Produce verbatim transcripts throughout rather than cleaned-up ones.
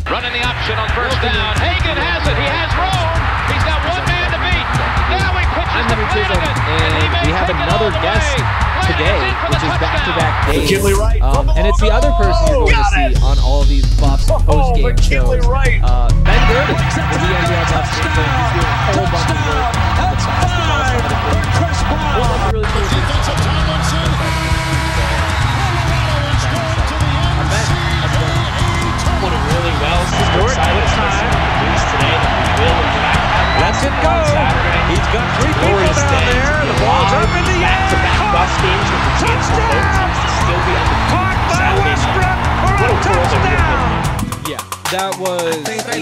Running the option on first down. Hagan has it. He has room. He's got one man to beat. Now he pitches I'm to Henry Chisholm, Flanagan. and we have another guest today, which is back-to-back days. McKinley Wright. Um, and it's the other person you're going to see on all of these Buffs post-game McKinley shows. Wright. Uh, Ben Durden, with the N B L Buffs game plan. He's doing a whole bunch of work. That's five. Chris Paul. Well, that's really cool. Defensive Tomlinson. Colorado is going to the N C double A Put it really well. Super excited about some news today that we will in fact have Let's it go. He's got three people Glorious down thing there. to The be ball's live, up in the air. back-to-back Buffs games with the chance for both teams to still be undefeated. Caught by Saturday Westbrook night. for a What a world that we're touchdown. living in. Yeah, that was a very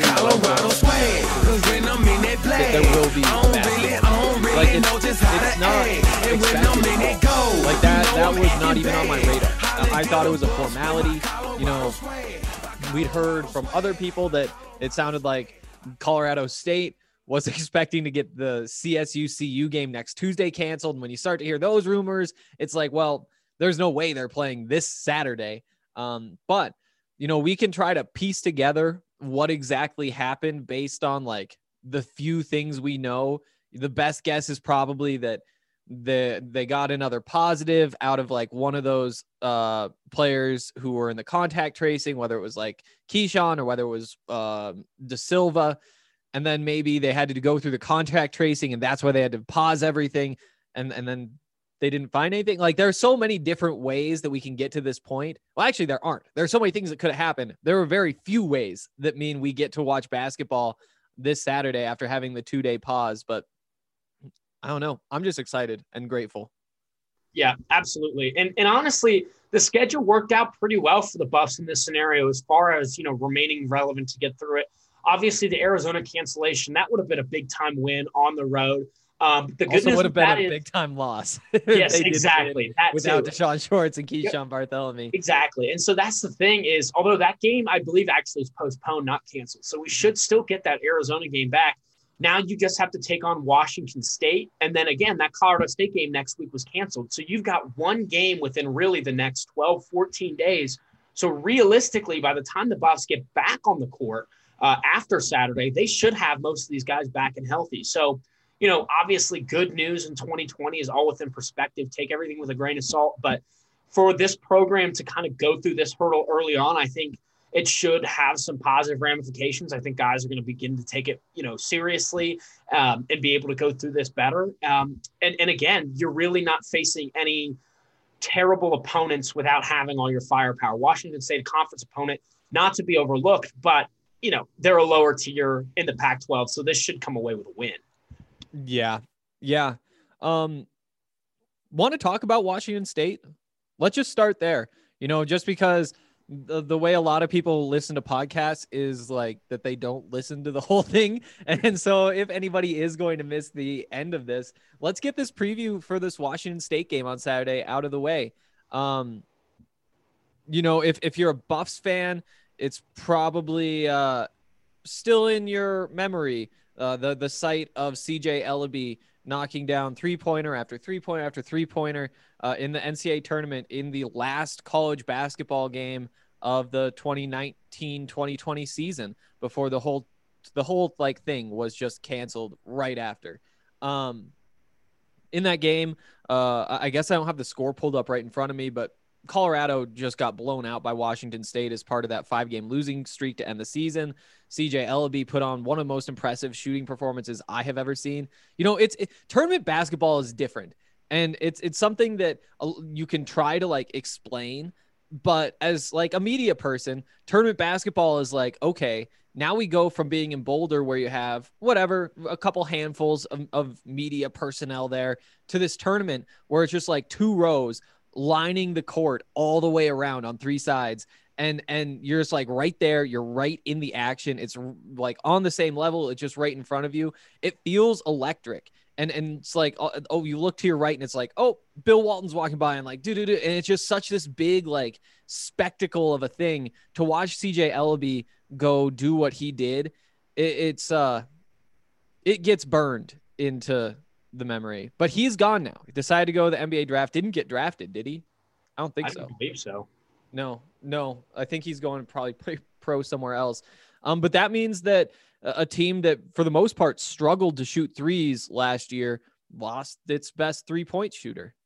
there will be basketball. Like it's, it's not expected. Like that that was not even on my radar. I thought it was a formality. You know, we'd heard from other people that it sounded like Colorado State was expecting to get the C S U C U game next Tuesday canceled. And when you start to hear those rumors, it's like, well, there's no way they're playing this Saturday. Um, but you know, we can try to piece together what exactly happened based on like the few things we know. The best guess is probably that the they got another positive out of like one of those uh, players who were in the contact tracing, whether it was like Keyshawn or whether it was uh, De Silva. And then maybe they had to go through the contact tracing and that's why they had to pause everything. And, and then they didn't find anything. Like there are so many different ways that we can get to this point. Well, actually there aren't. There are so many things that could have happened. There are very few ways that mean we get to watch basketball this Saturday after having the two day pause, but I don't know. I'm just excited and grateful. Yeah, absolutely. And and honestly, the schedule worked out pretty well for the Buffs in this scenario as far as, you know, remaining relevant to get through it. Obviously, the Arizona cancellation, that would have been a big-time win on the road. Um, the good also news would have been a is, big-time loss. Yes, exactly. That without too. Deshaun Schwartz and Keyshawn Yep. Bartholomew. Exactly. And so that's the thing is, although that game, I believe, actually is postponed, not canceled. So we should still get that Arizona game back. Now you just have to take on Washington State. And then again, that Colorado State game next week was canceled. So you've got one game within really the next twelve, fourteen days. So realistically, by the time the Buffs get back on the court uh, after Saturday, they should have most of these guys back and healthy. So, you know, obviously good news in twenty twenty is all within perspective. Take everything with a grain of salt. But for this program to kind of go through this hurdle early on, I think it should have some positive ramifications. I think guys are going to begin to take it, you know, seriously um, and be able to go through this better. Um, and, and again, you're really not facing any terrible opponents without having all your firepower. Washington State, a conference opponent, not to be overlooked, but, you know, they're a lower tier in the Pac twelve. So this should come away with a win. Yeah. Yeah. Um, want to talk about Washington State? Let's just start there. You know, just because the, the way a lot of people listen to podcasts is like that they don't listen to the whole thing. And so if anybody is going to miss the end of this, let's get this preview for this Washington State game on Saturday out of the way. Um, you know, if, if you're a Buffs fan, it's probably uh, still in your memory. Uh, the, the sight of C J Ellaby knocking down three-pointer after three-pointer after three-pointer uh, in the N C double A tournament in the last college basketball game of the twenty nineteen twenty twenty season before the whole the whole like thing was just canceled right after. Um, in that game, uh, I guess I don't have the score pulled up right in front of me, but Colorado just got blown out by Washington State as part of that five-game losing streak to end the season. C J Ellaby put on one of the most impressive shooting performances I have ever seen. You know, it's it, tournament basketball is different, and it's it's something that uh, you can try to like explain. But as like a media person, tournament basketball is like, okay, now we go from being in Boulder where you have whatever, a couple handfuls of, of media personnel there to this tournament where it's just like two rows lining the court all the way around on three sides. And, and you're just like right there. You're right in the action. It's like on the same level. It's just right in front of you. It feels electric. And, and it's like, oh, you look to your right and it's like, oh, Bill Walton's walking by and like, do, do, do. And it's just such this big, like spectacle of a thing to watch C J Ellaby go do what he did. It, it's, uh, it gets burned into the memory, but he's gone now. He decided to go to the N B A draft. Didn't get drafted, did he? I don't think I so. don't believe so. No, no. I think he's going to probably play, pro somewhere else. Um, but that means that a, a team that for the most part struggled to shoot threes last year lost its best three point shooter.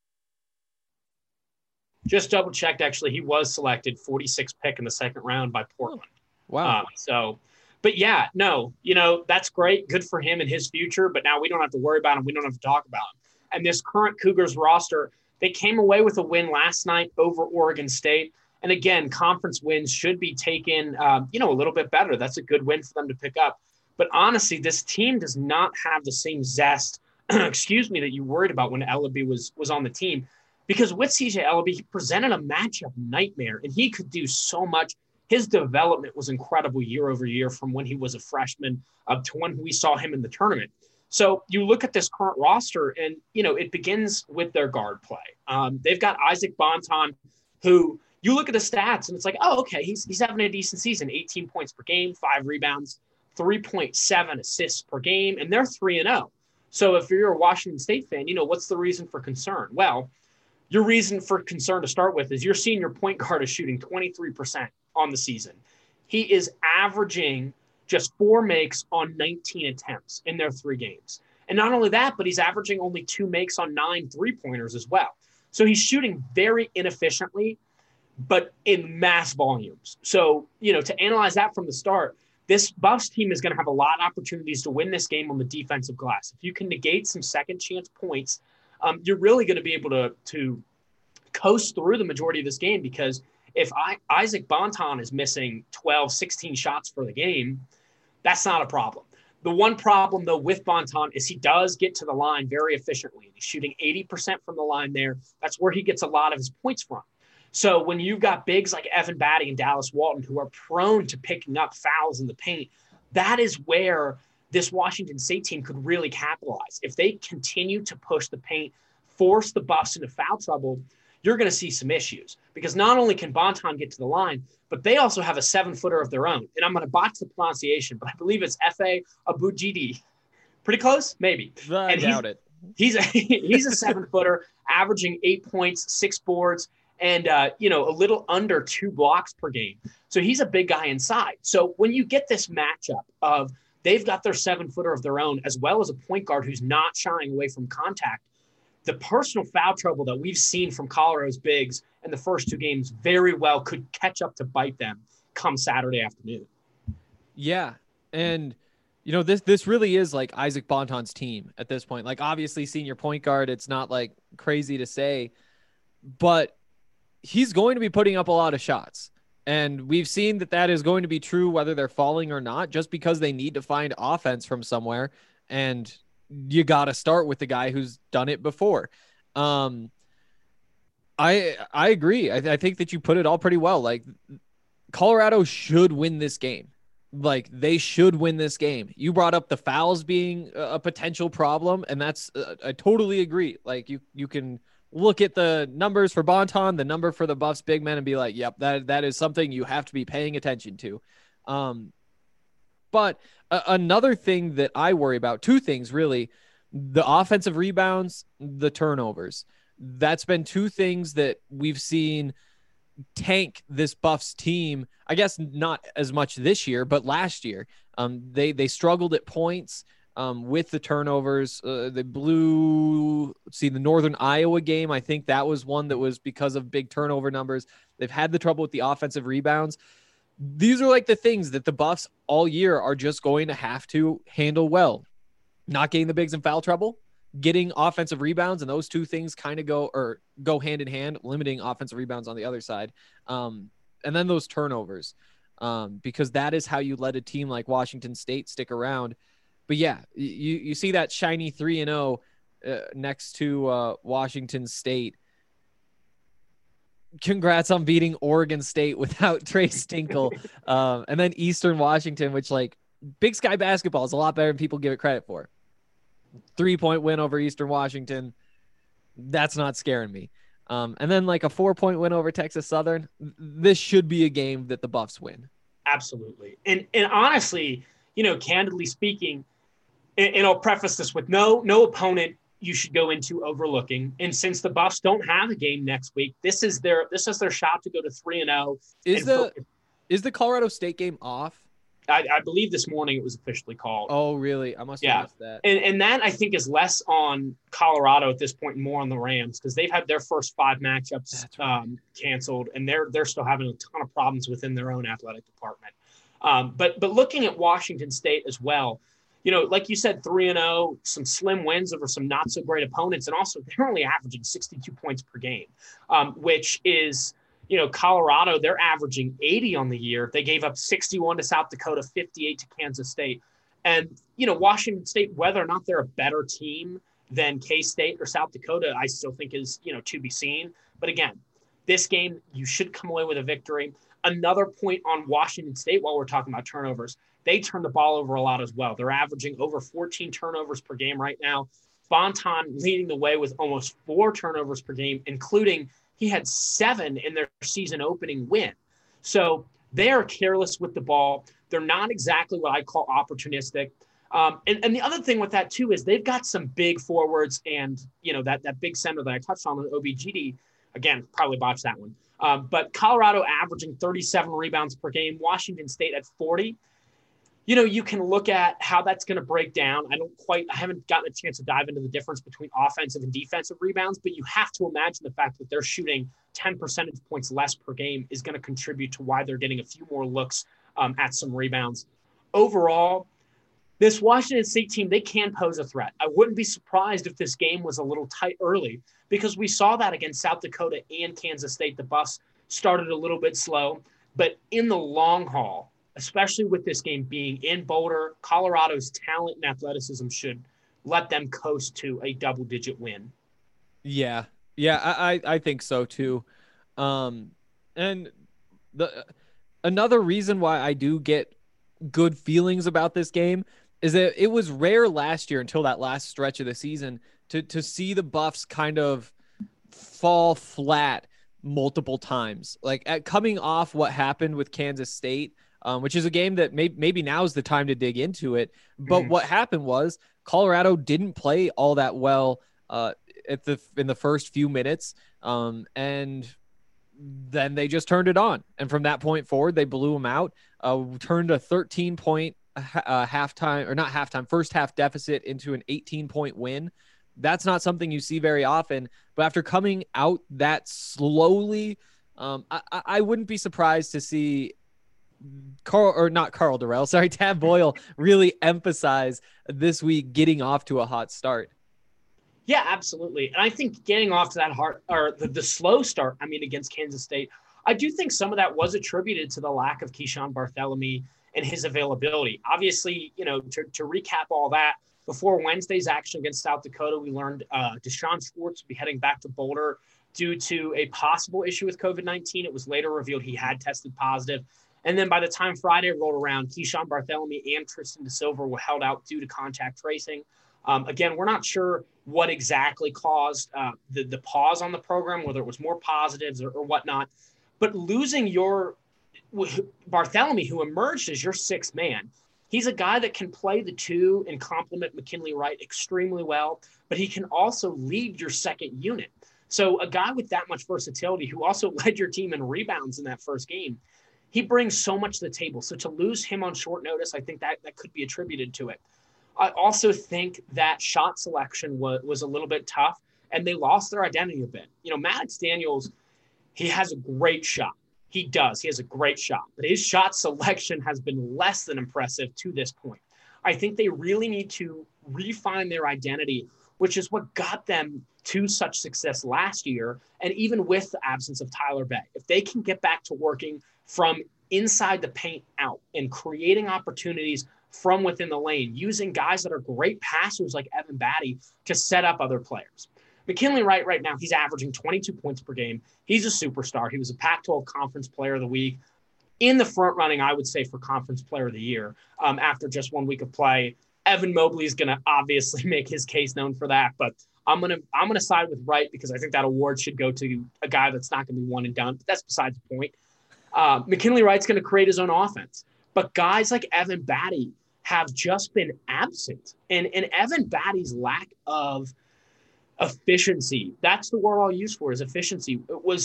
Just double checked. Actually, he was selected forty-sixth pick in the second round by Portland. Wow. Um, so, but yeah, no, you know, that's great. Good for him and his future. But now we don't have to worry about him. We don't have to talk about him. And this current Cougars roster, they came away with a win last night over Oregon State. And again, conference wins should be taken, um, you know, a little bit better. That's a good win for them to pick up. But honestly, this team does not have the same zest, excuse me, that you worried about when Ellaby was was on the team. Because with C J Ellaby, he presented a matchup nightmare, and he could do so much. His development was incredible year over year from when he was a freshman up to when we saw him in the tournament. So you look at this current roster, and, you know, it begins with their guard play. Um, they've got Isaac Bonton, who you look at the stats, and it's like, oh, okay, he's, he's having a decent season, eighteen points per game, five rebounds, three point seven assists per game, and they're three and oh. So if you're a Washington State fan, you know, what's the reason for concern? Well, your reason for concern to start with is your senior point guard is shooting twenty-three percent on the season. He is averaging just four makes on nineteen attempts in their three games. And not only that, but he's averaging only two makes on nine three-pointers as well. So he's shooting very inefficiently, but in mass volumes. So, you know, to analyze that from the start, this Buffs team is going to have a lot of opportunities to win this game on the defensive glass. If you can negate some second chance points, um, you're really going to be able to, to coast through the majority of this game, because if I, Isaac Bonton is missing twelve, sixteen shots for the game, that's not a problem. The one problem, though, with Bonton is he does get to the line very efficiently. He's shooting eighty percent from the line there. That's where he gets a lot of his points from. So when you've got bigs like Evan Batty and Dallas Walton who are prone to picking up fouls in the paint, that is where this Washington State team could really capitalize. If they continue to push the paint, force the Buffs into foul trouble, you're going to see some issues, because not only can Bonton get to the line, but they also have a seven-footer of their own. And I'm going to botch the pronunciation, but I believe it's F A Abujidi. Pretty close? Maybe. I and doubt he's, it. He's a, he's a seven-footer, averaging eight points, six boards, and, uh, you know, a little under two blocks per game. So he's a big guy inside. So when you get this matchup of they've got their seven-footer of their own, as well as a point guard who's not shying away from contact, the personal foul trouble that we've seen from Colorado's bigs in the first two games very well could catch up to bite them come Saturday afternoon. Yeah. And, you know, this, this really is like Isaac Bonton's team at this point. Like, obviously senior point guard, it's not like crazy to say, but he's going to be putting up a lot of shots. And we've seen that that is going to be true whether they're falling or not, just because they need to find offense from somewhere. And you got to start with the guy who's done it before. Um, I I agree. I, I think that you put it all pretty well. Like, Colorado should win this game. Like, they should win this game. You brought up the fouls being a potential problem, and that's uh, I totally agree. Like, you you can look at the numbers for Bonton, the number for the Buffs big men, and be like, yep, that that is something you have to be paying attention to. Um, but uh, another thing that I worry about, two things really, the offensive rebounds, the turnovers. That's been two things that we've seen tank this Buffs team. I guess not as much this year, but last year, um, they, they struggled at points um, with the turnovers. Uh, they blew, let's see, the Northern Iowa game. I think that was one that was because of big turnover numbers. They've had the trouble with the offensive rebounds. These are like the things that the Buffs all year are just going to have to handle well. Not getting the bigs in foul trouble, getting offensive rebounds, and those two things kind of go or go hand in hand, limiting offensive rebounds on the other side. Um, and then those turnovers, um, because that is how you let a team like Washington State stick around. But yeah, you, you see that shiny three and oh uh, next to uh, Washington State. Congrats on beating Oregon State without Trey Stinkle. um, and then Eastern Washington, which, like, Big Sky basketball is a lot better than people give it credit for. Three-point win over Eastern Washington. That's not scaring me. Um, and then like a four-point win over Texas Southern. This should be a game that the Buffs win. Absolutely. And and honestly, you know, candidly speaking, and, and I'll preface this with no no opponent you should go into overlooking. And since the Buffs don't have a game next week, this is their this is their shot to go to three and zero. Is the Is the Colorado State game off? I, I believe this morning it was officially called. Oh, really? I must have Yeah. missed that. And, and that, I think, is less on Colorado at this point and more on the Rams because they've had their first five matchups right. um, canceled, and they're they're still having a ton of problems within their own athletic department. Um, but but looking at Washington State as well, you know, like you said, three and oh, some slim wins over some not so great opponents, and also they're only averaging sixty-two points per game, um, which is – you know, Colorado, they're averaging eighty on the year. They gave up sixty-one to South Dakota, fifty-eight to Kansas State. And, you know, Washington State, whether or not they're a better team than K-State or South Dakota, I still think is, you know, to be seen. But again, this game, you should come away with a victory. Another point on Washington State while we're talking about turnovers, they turn the ball over a lot as well. They're averaging over fourteen turnovers per game right now. Bonton leading the way with almost four turnovers per game, including he had seven in their season opening win. So they are careless with the ball. They're not exactly what I call opportunistic. Um, and, and the other thing with that, too, is they've got some big forwards and, you know, that, that big center that I touched on with O B G D. Again, probably botched that one. Um, but Colorado averaging thirty-seven rebounds per game, Washington State at forty. You know, you can look at how that's going to break down. I don't quite, I haven't gotten a chance to dive into the difference between offensive and defensive rebounds, but you have to imagine the fact that they're shooting ten percentage points less per game is going to contribute to why they're getting a few more looks um, at some rebounds. Overall, this Washington State team, they can pose a threat. I wouldn't be surprised if this game was a little tight early because we saw that against South Dakota and Kansas State. The bus started a little bit slow, but in the long haul, especially with this game being in Boulder, Colorado's talent and athleticism should let them coast to a double-digit win. Yeah, yeah, I, I, I think so too. Um, and the another reason why I do get good feelings about this game is that it was rare last year until that last stretch of the season to to see the Buffs kind of fall flat multiple times. Like at coming off what happened with Kansas State, Um, which is a game that may, maybe now is the time to dig into it. But Mm. what happened was Colorado didn't play all that well uh, at the in the first few minutes, um, and then they just turned it on. And from that point forward, they blew them out, uh, turned a thirteen point uh, halftime or not halftime, first half deficit into an eighteen point win. That's not something you see very often. But after coming out that slowly, um, I, I wouldn't be surprised to see Carl or not Carl Durrell, sorry, Tad Boyle really emphasize this week getting off to a hot start. Yeah, absolutely. And I think getting off to that hard or the, the slow start, I mean, against Kansas State, I do think some of that was attributed to the lack of Keyshawn Barthélemy and his availability. Obviously, you know, to, to recap all that, before Wednesday's action against South Dakota, we learned uh, Deshaun Schwartz will be heading back to Boulder due to a possible issue with COVID nineteen. It was later revealed he had tested positive. And then by the time Friday rolled around, Keyshawn Barthélemy and Tristan DeSilva were held out due to contact tracing. Um, again, we're not sure what exactly caused uh, the, the pause on the program, whether it was more positives or, or whatnot. But losing your Barthélemy, who emerged as your sixth man, he's a guy that can play the two and complement McKinley Wright extremely well, but he can also lead your second unit. So a guy with that much versatility who also led your team in rebounds in that first game, he brings so much to the table. So to lose him on short notice, I think that, that could be attributed to it. I also think that shot selection was, was a little bit tough, and they lost their identity a bit. You know, Maddox Daniels, he has a great shot. He does. He has a great shot. But his shot selection has been less than impressive to this point. I think they really need to refine their identity, which is what got them to such success last year, and even with the absence of Tyler Bay. If they can get back to working from inside the paint out and creating opportunities from within the lane, using guys that are great passers like Evan Batty to set up other players. McKinley Wright right now, he's averaging twenty-two points per game. He's a superstar. He was a Pac twelve Conference Player of the Week. In the front running, I would say, for Conference Player of the Year um, after just one week of play. Evan Mobley is going to obviously make his case known for that, but I'm going to I'm going to side with Wright because I think that award should go to a guy that's not going to be one and done. But that's besides the point. Uh, McKinley Wright's going to create his own offense. But guys like Evan Batty have just been absent. And, and Evan Batty's lack of efficiency, that's the word I'll use for is efficiency. It was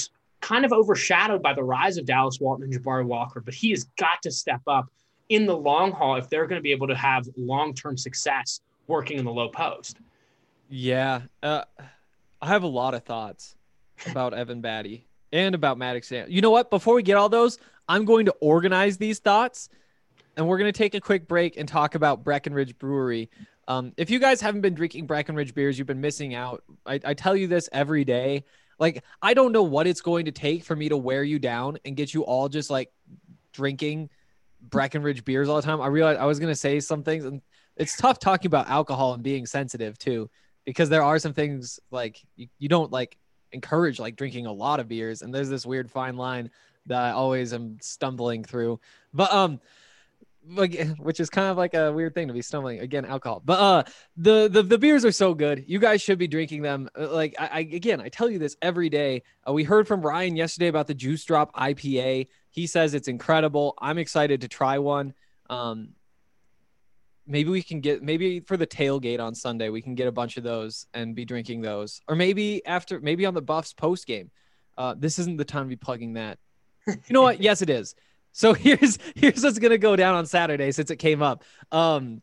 kind of overshadowed by the rise of Dallas Walton and Jabari Walker, but he has got to step up in the long haul if they're going to be able to have long-term success working in the low post. Yeah. Uh, I have a lot of thoughts about Evan Batty and about Maddox. You know what? Before we get all those, I'm going to organize these thoughts, and we're going to take a quick break and talk about Breckenridge Brewery. Um, if you guys haven't been drinking Breckenridge beers, you've been missing out. I, I tell you this every day. Like, I don't know what it's going to take for me to wear you down and get you all just like drinking Breckenridge beers all the time. I realized I was going to say some things, and it's tough talking about alcohol and being sensitive too, because there are some things like you, you don't like encourage like drinking a lot of beers. And there's this weird fine line that I always am stumbling through, but, um, like, which is kind of like a weird thing to be stumbling again, alcohol, but, uh, the, the, the beers are so good. You guys should be drinking them. Like I, I again, I tell you this every day. Uh, we heard from Ryan yesterday about the Juice Drop I P A. He says it's incredible. I'm excited to try one. Um, maybe we can get, maybe for the tailgate on Sunday, we can get a bunch of those and be drinking those, or maybe after, maybe on the Buffs post game. Uh, this isn't the time to be plugging that. You know what? Yes, it is. So here's here's what's gonna go down on Saturday since it came up. Um,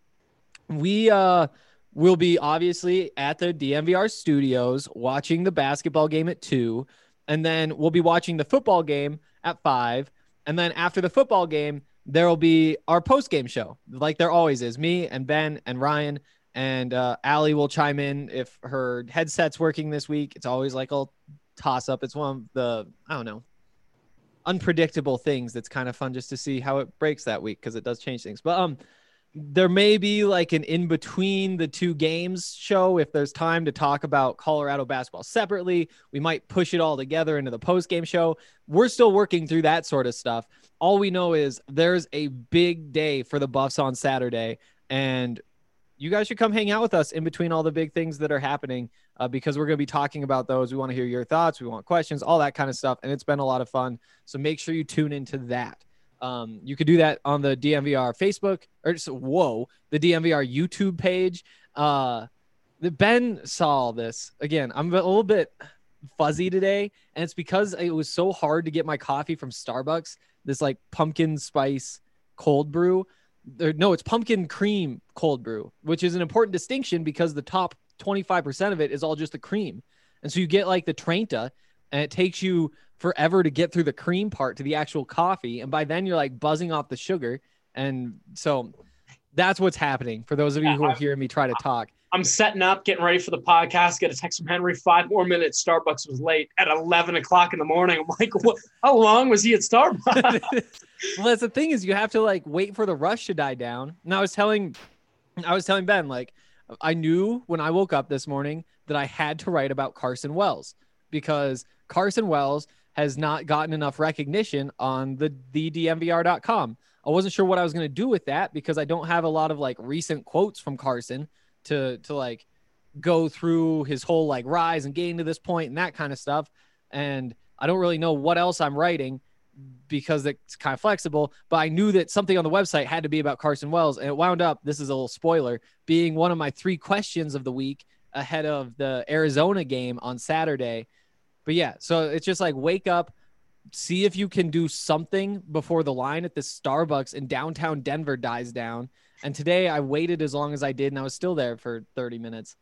we uh will be obviously at the D M V R studios watching the basketball game at two, and then we'll be watching the football game at five, and then after the football game there will be our post game show, like there always is. Me and Ben and Ryan and uh, Allie will chime in if her headset's working this week. It's always like a toss up. It's one of the I don't know. unpredictable things that's kind of fun just to see how it breaks that week, because it does change things. But um there may be like an in between the two games show if there's time to talk about Colorado basketball separately. We might push it all together into the post game show. We're still working through that sort of stuff. All we know is there's a big day for the Buffs on Saturday, and you guys should come hang out with us in between all the big things that are happening, uh, because we're going to be talking about those. We want to hear your thoughts. We want questions, all that kind of stuff. And it's been a lot of fun. So make sure you tune into that. Um, you could do that on the D M V R Facebook or just, whoa, the D M V R YouTube page. Uh, the Ben saw all this again. I'm a little bit fuzzy today, and it's because it was so hard to get my coffee from Starbucks. This like pumpkin spice cold brew. There, no, it's pumpkin cream cold brew, which is an important distinction because the top twenty-five percent of it is all just the cream. And so you get like the Trenta, and it takes you forever to get through the cream part to the actual coffee. And by then you're like buzzing off the sugar. And so that's what's happening for those of you Yeah, who are I- hearing me try to talk. I'm setting up, getting ready for the podcast. Get a text from Henry. Five more minutes. Starbucks was late at eleven o'clock in the morning. I'm like, what? How long was he at Starbucks? Well, that's the thing is you have to like wait for the rush to die down. And I was telling, I was telling Ben, like, I knew when I woke up this morning that I had to write about Carson Wells because Carson Wells has not gotten enough recognition on the, the D M V R dot com. I wasn't sure what I was going to do with that because I don't have a lot of like recent quotes from Carson to, to like go through his whole like rise and getting to this point and that kind of stuff. And I don't really know what else I'm writing because it's kind of flexible, but I knew that something on the website had to be about Carson Wells, and it wound up, this is a little spoiler, being one of my three questions of the week ahead of the Arizona game on Saturday. But yeah, so it's just like wake up, see if you can do something before the line at the Starbucks in downtown Denver dies down. And today I waited as long as I did, and I was still there for thirty minutes.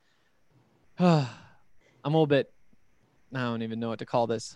I'm a little bit, I don't even know what to call this.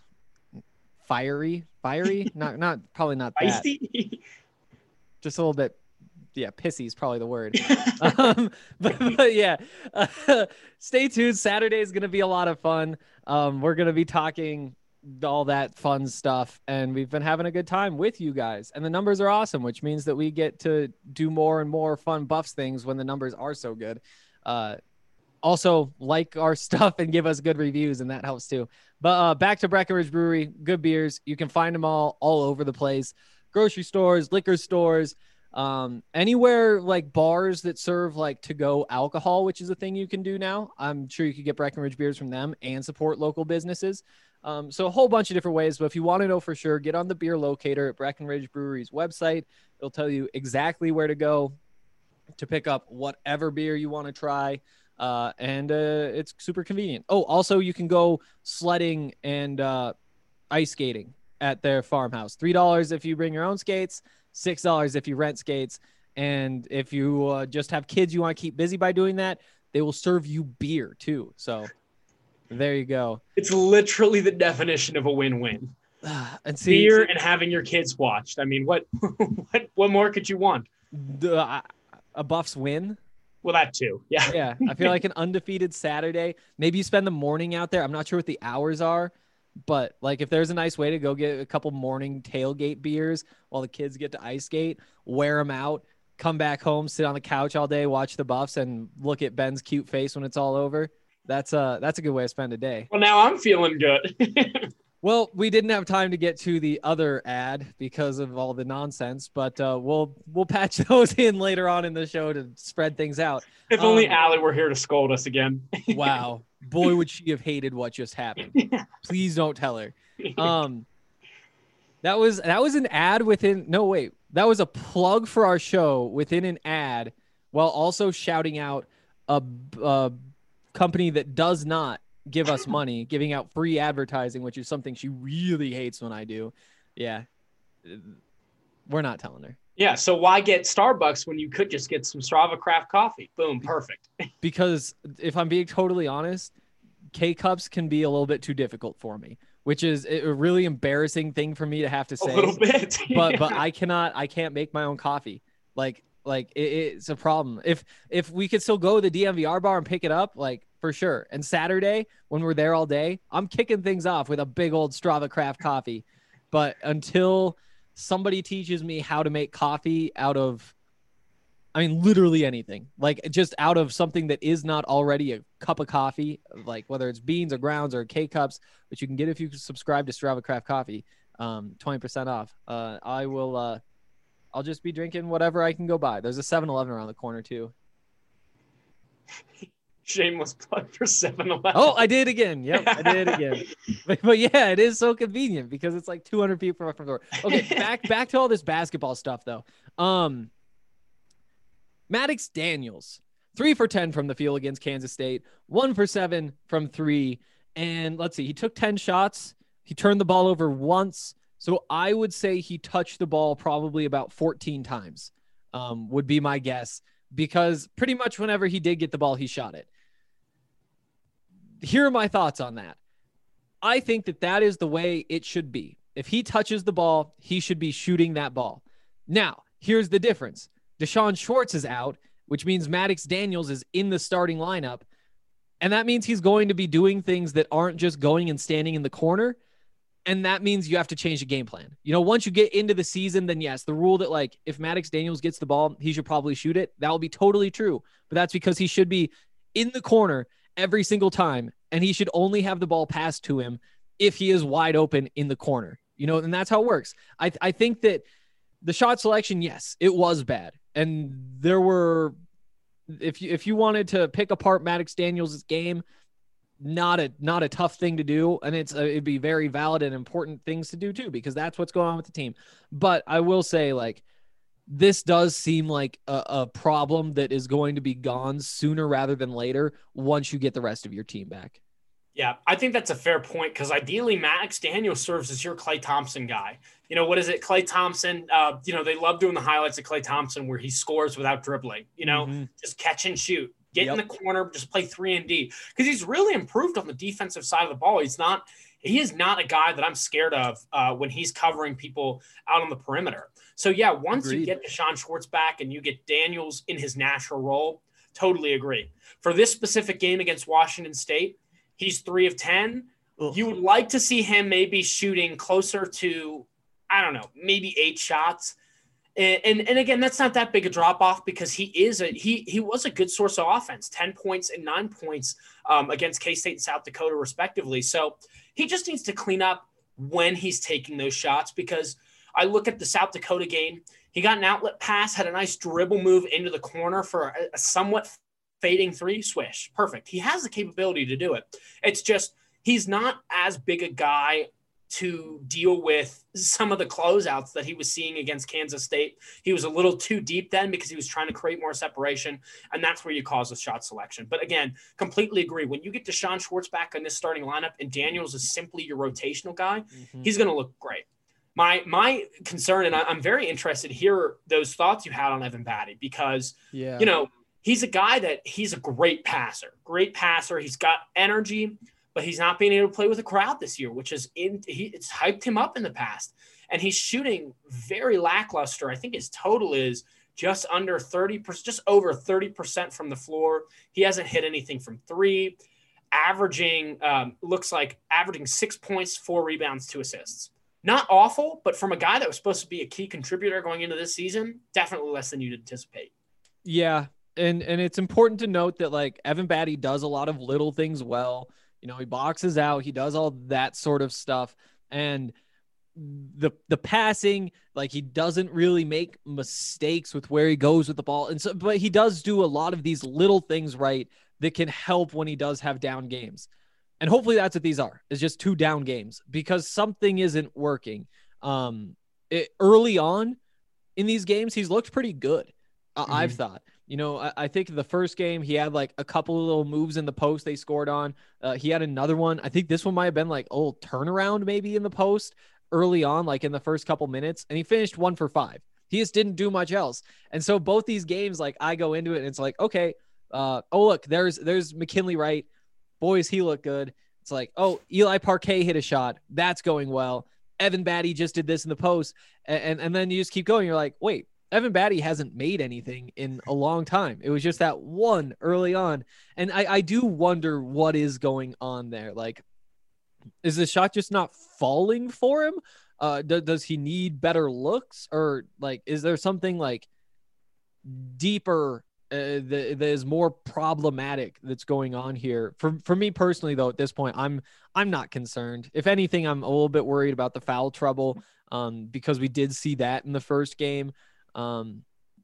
Fiery, fiery, not, not probably not that. Feisty? Just a little bit. Yeah. Pissy is probably the word. um, but, but yeah, uh, stay tuned. Saturday is going to be a lot of fun. Um, we're going to be talking all that fun stuff, and we've been having a good time with you guys, and the numbers are awesome, which means that we get to do more and more fun Buffs things when the numbers are so good. Uh, Also, like our stuff and give us good reviews, and that helps too. But uh, back to Breckenridge Brewery, good beers. You can find them all all over the place. Grocery stores, liquor stores, um, anywhere like bars that serve like to-go alcohol, which is a thing you can do now. I'm sure you could get Breckenridge beers from them and support local businesses. Um, so a whole bunch of different ways. But if you want to know for sure, get on the beer locator at Breckenridge Brewery's website. It'll tell you exactly where to go to pick up whatever beer you want to try. Uh, and uh, it's super convenient. Oh, also you can go sledding and uh, ice skating at their farmhouse. three dollars if you bring your own skates, six dollars if you rent skates. And if you uh, just have kids you want to keep busy by doing that, they will serve you beer too. So there you go. It's literally the definition of a win-win. And see, beer and having your kids watched. I mean, what what what more could you want? The, uh, a Buffs win. Well, that too. Yeah. Yeah. I feel like an undefeated Saturday. Maybe you spend the morning out there. I'm not sure what the hours are, but like if there's a nice way to go get a couple morning tailgate beers while the kids get to ice skate, wear them out, come back home, sit on the couch all day, watch the Buffs, and look at Ben's cute face when it's all over. That's a that's a good way to spend a day. Well, now I'm feeling good. Well, we didn't have time to get to the other ad because of all the nonsense, but uh, we'll we'll patch those in later on in the show to spread things out. If um, only Allie were here to scold us again. Wow, boy, would she have hated what just happened. Yeah. Please don't tell her. Um, that was that was an ad within. No, wait, that was a plug for our show within an ad, while also shouting out a, a company that does not give us money, giving out free advertising, which is something she really hates when I do. Yeah. We're not telling her. Yeah. So why get Starbucks when you could just get some Strava craft coffee? Boom. Perfect. Because if I'm being totally honest, K-Cups can be a little bit too difficult for me, which is a really embarrassing thing for me to have to say. A little bit. but, but I cannot, I can't make my own coffee. Like, like it, it's a problem. If, if we could still go to the D M V R bar and pick it up, like, for sure. And Saturday, when we're there all day, I'm kicking things off with a big old Strava craft coffee. But until somebody teaches me how to make coffee out of, I mean, literally anything, like just out of something that is not already a cup of coffee, like whether it's beans or grounds or K-Cups, which you can get if you subscribe to Strava craft coffee, um, twenty percent off. Uh, I will, uh, I'll just be drinking whatever I can go buy. There's a seven eleven around the corner too. Shameless plug for seven eleven. Oh, I did again. Yep, I did again. But, but yeah, it is so convenient because it's like two hundred feet from my front door. Okay, back back to all this basketball stuff though. Um, Maddox Daniels, three for ten from the field against Kansas State, one for seven from three, and let's see, he took ten shots. He turned the ball over once, so I would say he touched the ball probably about fourteen times. Um, would be my guess. Because pretty much whenever he did get the ball, he shot it. Here are my thoughts on that. I think that that is the way it should be. If he touches the ball, he should be shooting that ball. Now, here's the difference. Deshaun Schwartz is out, which means Maddox Daniels is in the starting lineup. And that means he's going to be doing things that aren't just going and standing in the corner. And that means you have to change the game plan. You know, once you get into the season, then yes, the rule that like if Maddox Daniels gets the ball, he should probably shoot it. That will be totally true. But that's because he should be in the corner every single time. And he should only have the ball passed to him if he is wide open in the corner. You know, and that's how it works. I, I think that the shot selection, yes, it was bad. And there were, if you, if you wanted to pick apart Maddox Daniels' game, not a not a tough thing to do, and it's uh, it'd be very valid and important things to do too, because that's what's going on with the team. But I will say, like, this does seem like a, a problem that is going to be gone sooner rather than later once you get the rest of your team back. Yeah, I think that's a fair point, because ideally Maddox Daniels serves as your Klay Thompson guy. You know, what is it? Klay Thompson, uh, you know, they love doing the highlights of Klay Thompson where he scores without dribbling, you know, mm-hmm. just catch and shoot. Get yep. in the corner, just play three and D, because he's really improved on the defensive side of the ball. He's not, he is not a guy that I'm scared of uh, when he's covering people out on the perimeter. So yeah, once Agreed. You get Deshaun Schwartz back and you get Daniels in his natural role, totally agree. For this specific game against Washington State, he's three of ten. Ugh. You would like to see him maybe shooting closer to, I don't know, maybe eight shots. And, and and again, that's not that big a drop off, because he is a he he was a good source of offense, ten points and nine points um, against K-State and South Dakota respectively. So he just needs to clean up when he's taking those shots, because I look at the South Dakota game, he got an outlet pass, had a nice dribble move into the corner for a, a somewhat fading three, swish, perfect. He has the capability to do it. It's just he's not as big a guy to deal with some of the closeouts that he was seeing against Kansas State. He was a little too deep then because he was trying to create more separation, and that's where you cause a shot selection. But again, completely agree. When you get Deshaun Schwartz back in this starting lineup and Daniels is simply your rotational guy, mm-hmm. he's going to look great. My my concern, and I, I'm very interested to hear those thoughts you had on Evan Batty because, yeah. you know, he's a guy that he's a great passer, great passer. He's got energy, but he's not being able to play with a crowd this year, which is in he it's hyped him up in the past. And he's shooting very lackluster. I think his total is just under thirty percent, just over thirty percent from the floor. He hasn't hit anything from three, averaging, um, looks like averaging six points, four rebounds, two assists. Not awful, but from a guy that was supposed to be a key contributor going into this season, definitely less than you'd anticipate. Yeah. And, and it's important to note that like Evan Batty does a lot of little things well. You know, he boxes out, he does all that sort of stuff. And the the passing, like he doesn't really make mistakes with where he goes with the ball. And so, but he does do a lot of these little things right that can help when he does have down games. And hopefully that's what these are, is just two down games because something isn't working. Um, it, early on in these games, he's looked pretty good. Uh, mm-hmm. I've thought. You know, I, I think the first game he had like a couple of little moves in the post they scored on. Uh, he had another one. I think this one might have been like a little turnaround maybe in the post early on, like in the first couple minutes. And he finished one for five. He just didn't do much else. And so both these games, like I go into it and it's like, okay, uh, oh, look, there's there's McKinley Wright. Boys, he looked good. It's like, oh, Eli Parquet hit a shot. That's going well. Evan Batty just did this in the post. And, and, and then you just keep going. You're like, wait. Evan Batty hasn't made anything in a long time. It was just that one early on. And I, I do wonder what is going on there. Like, is the shot just not falling for him? Uh, do, does he need better looks? Or like, is there something like deeper uh, that, that is more problematic that's going on here? For for me personally, though, at this point, I'm I'm not concerned. If anything, I'm a little bit worried about the foul trouble um, because we did see that in the first game. Um,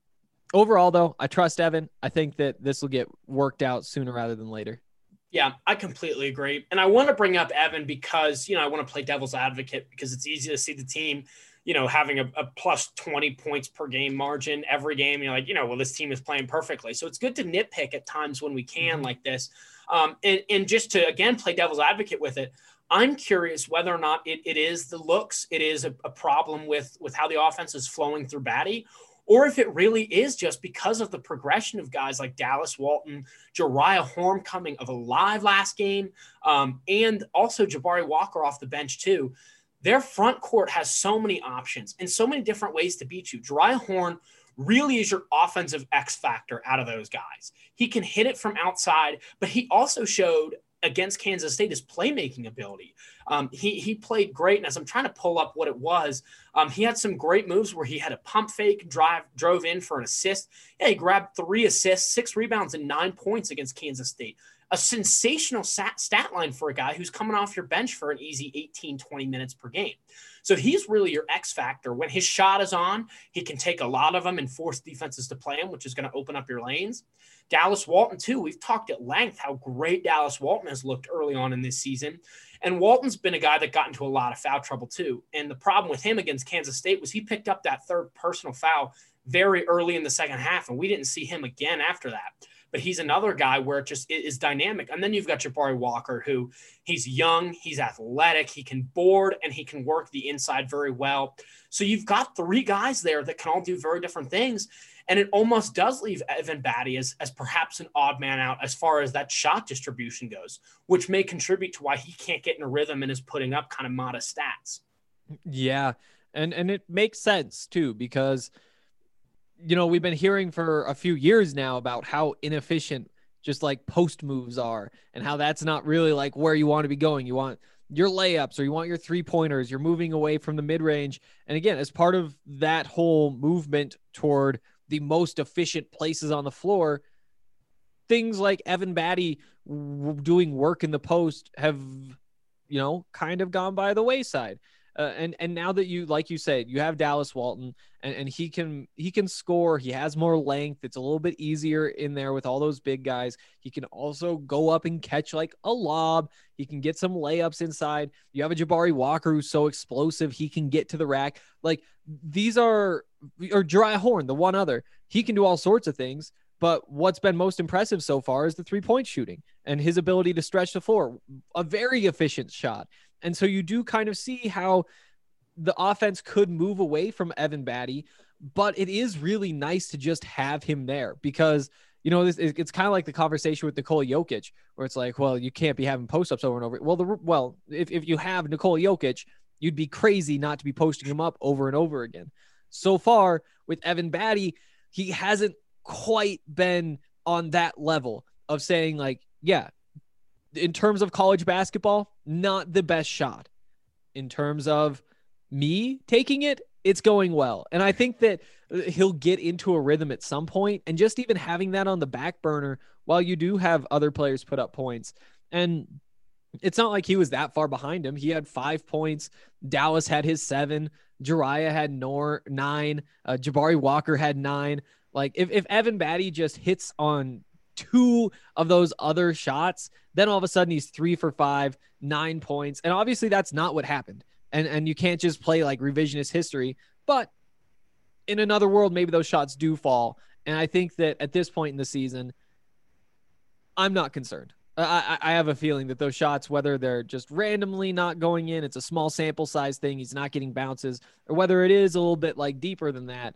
overall though, I trust Evan. I think that this will get worked out sooner rather than later. Yeah, I completely agree. And I want to bring up Evan because, you know, I want to play devil's advocate because it's easy to see the team, you know, having a, a plus twenty points per game margin every game. You're like, you know, well, this team is playing perfectly. So it's good to nitpick at times when we can mm-hmm. like this. Um, and, and just to, again, play devil's advocate with it. I'm curious whether or not it, it is the looks, it is a, a problem with, with how the offense is flowing through Batty, or if it really is just because of the progression of guys like Dallas Walton, Jariah Horn coming of alive last game, um, and also Jabari Walker off the bench too. Their front court has so many options and so many different ways to beat you. Jariah Horn really is your offensive X factor out of those guys. He can hit it from outside, but he also showed against Kansas State his playmaking ability. Um, he he played great, and as I'm trying to pull up what it was, um, he had some great moves where he had a pump fake, drive, drove in for an assist. Yeah, he grabbed three assists, six rebounds, and nine points against Kansas State. A sensational stat, stat line for a guy who's coming off your bench for an easy eighteen, twenty minutes per game. So he's really your X factor. When his shot is on, he can take a lot of them and force defenses to play him, which is going to open up your lanes. Dallas Walton, too. We've talked at length how great Dallas Walton has looked early on in this season. And Walton's been a guy that got into a lot of foul trouble, too. And the problem with him against Kansas State was he picked up that third personal foul very early in the second half, and we didn't see him again after that. But he's another guy where it just is dynamic. And then you've got Jabari Walker, who he's young, he's athletic, he can board, and he can work the inside very well. So you've got three guys there that can all do very different things. And it almost does leave Evan Batty as, as perhaps an odd man out as far as that shot distribution goes, which may contribute to why he can't get in a rhythm and is putting up kind of modest stats. Yeah. And, and it makes sense too, because, you know, we've been hearing for a few years now about how inefficient just like post moves are and how that's not really like where you want to be going. You want your layups or you want your three pointers. You're moving away from the mid range. And again, as part of that whole movement toward the most efficient places on the floor, things like Evan Batty w- doing work in the post have, you know, kind of gone by the wayside. Uh, and and now that you, like you said, you have Dallas Walton, and, and he can he can score. He has more length. It's a little bit easier in there with all those big guys. He can also go up and catch like a lob. He can get some layups inside. You have a Jabari Walker who's so explosive. He can get to the rack. Like these are, or Jeriah Horn, the one other. He can do all sorts of things. But what's been most impressive so far is the three-point shooting and his ability to stretch the floor. A very efficient shot. And so you do kind of see how the offense could move away from Evan Batty, but it is really nice to just have him there because, you know, this, it's kind of like the conversation with Nikola Jokic, where it's like, well, you can't be having post-ups over and over. Well, the well, if, if you have Nikola Jokic, you'd be crazy not to be posting him up over and over again. So far with Evan Batty, he hasn't quite been on that level of saying like, yeah, in terms of college basketball, not the best shot. In terms of me taking it, it's going well. And I think that he'll get into a rhythm at some point, and just even having that on the back burner while you do have other players put up points. And it's not like he was that far behind him. He had five points. Dallas had his seven. Jeriah had nor nine. Uh, Jabari Walker had nine. Like if, if Evan Batty just hits on two of those other shots, then all of a sudden he's three for five, nine points. And obviously that's not what happened. And, and you can't just play like revisionist history, but in another world, maybe those shots do fall. And I think that at this point in the season, I'm not concerned. I, I have a feeling that those shots, whether they're just randomly not going in, it's a small sample size thing, he's not getting bounces, or whether it is a little bit like deeper than that,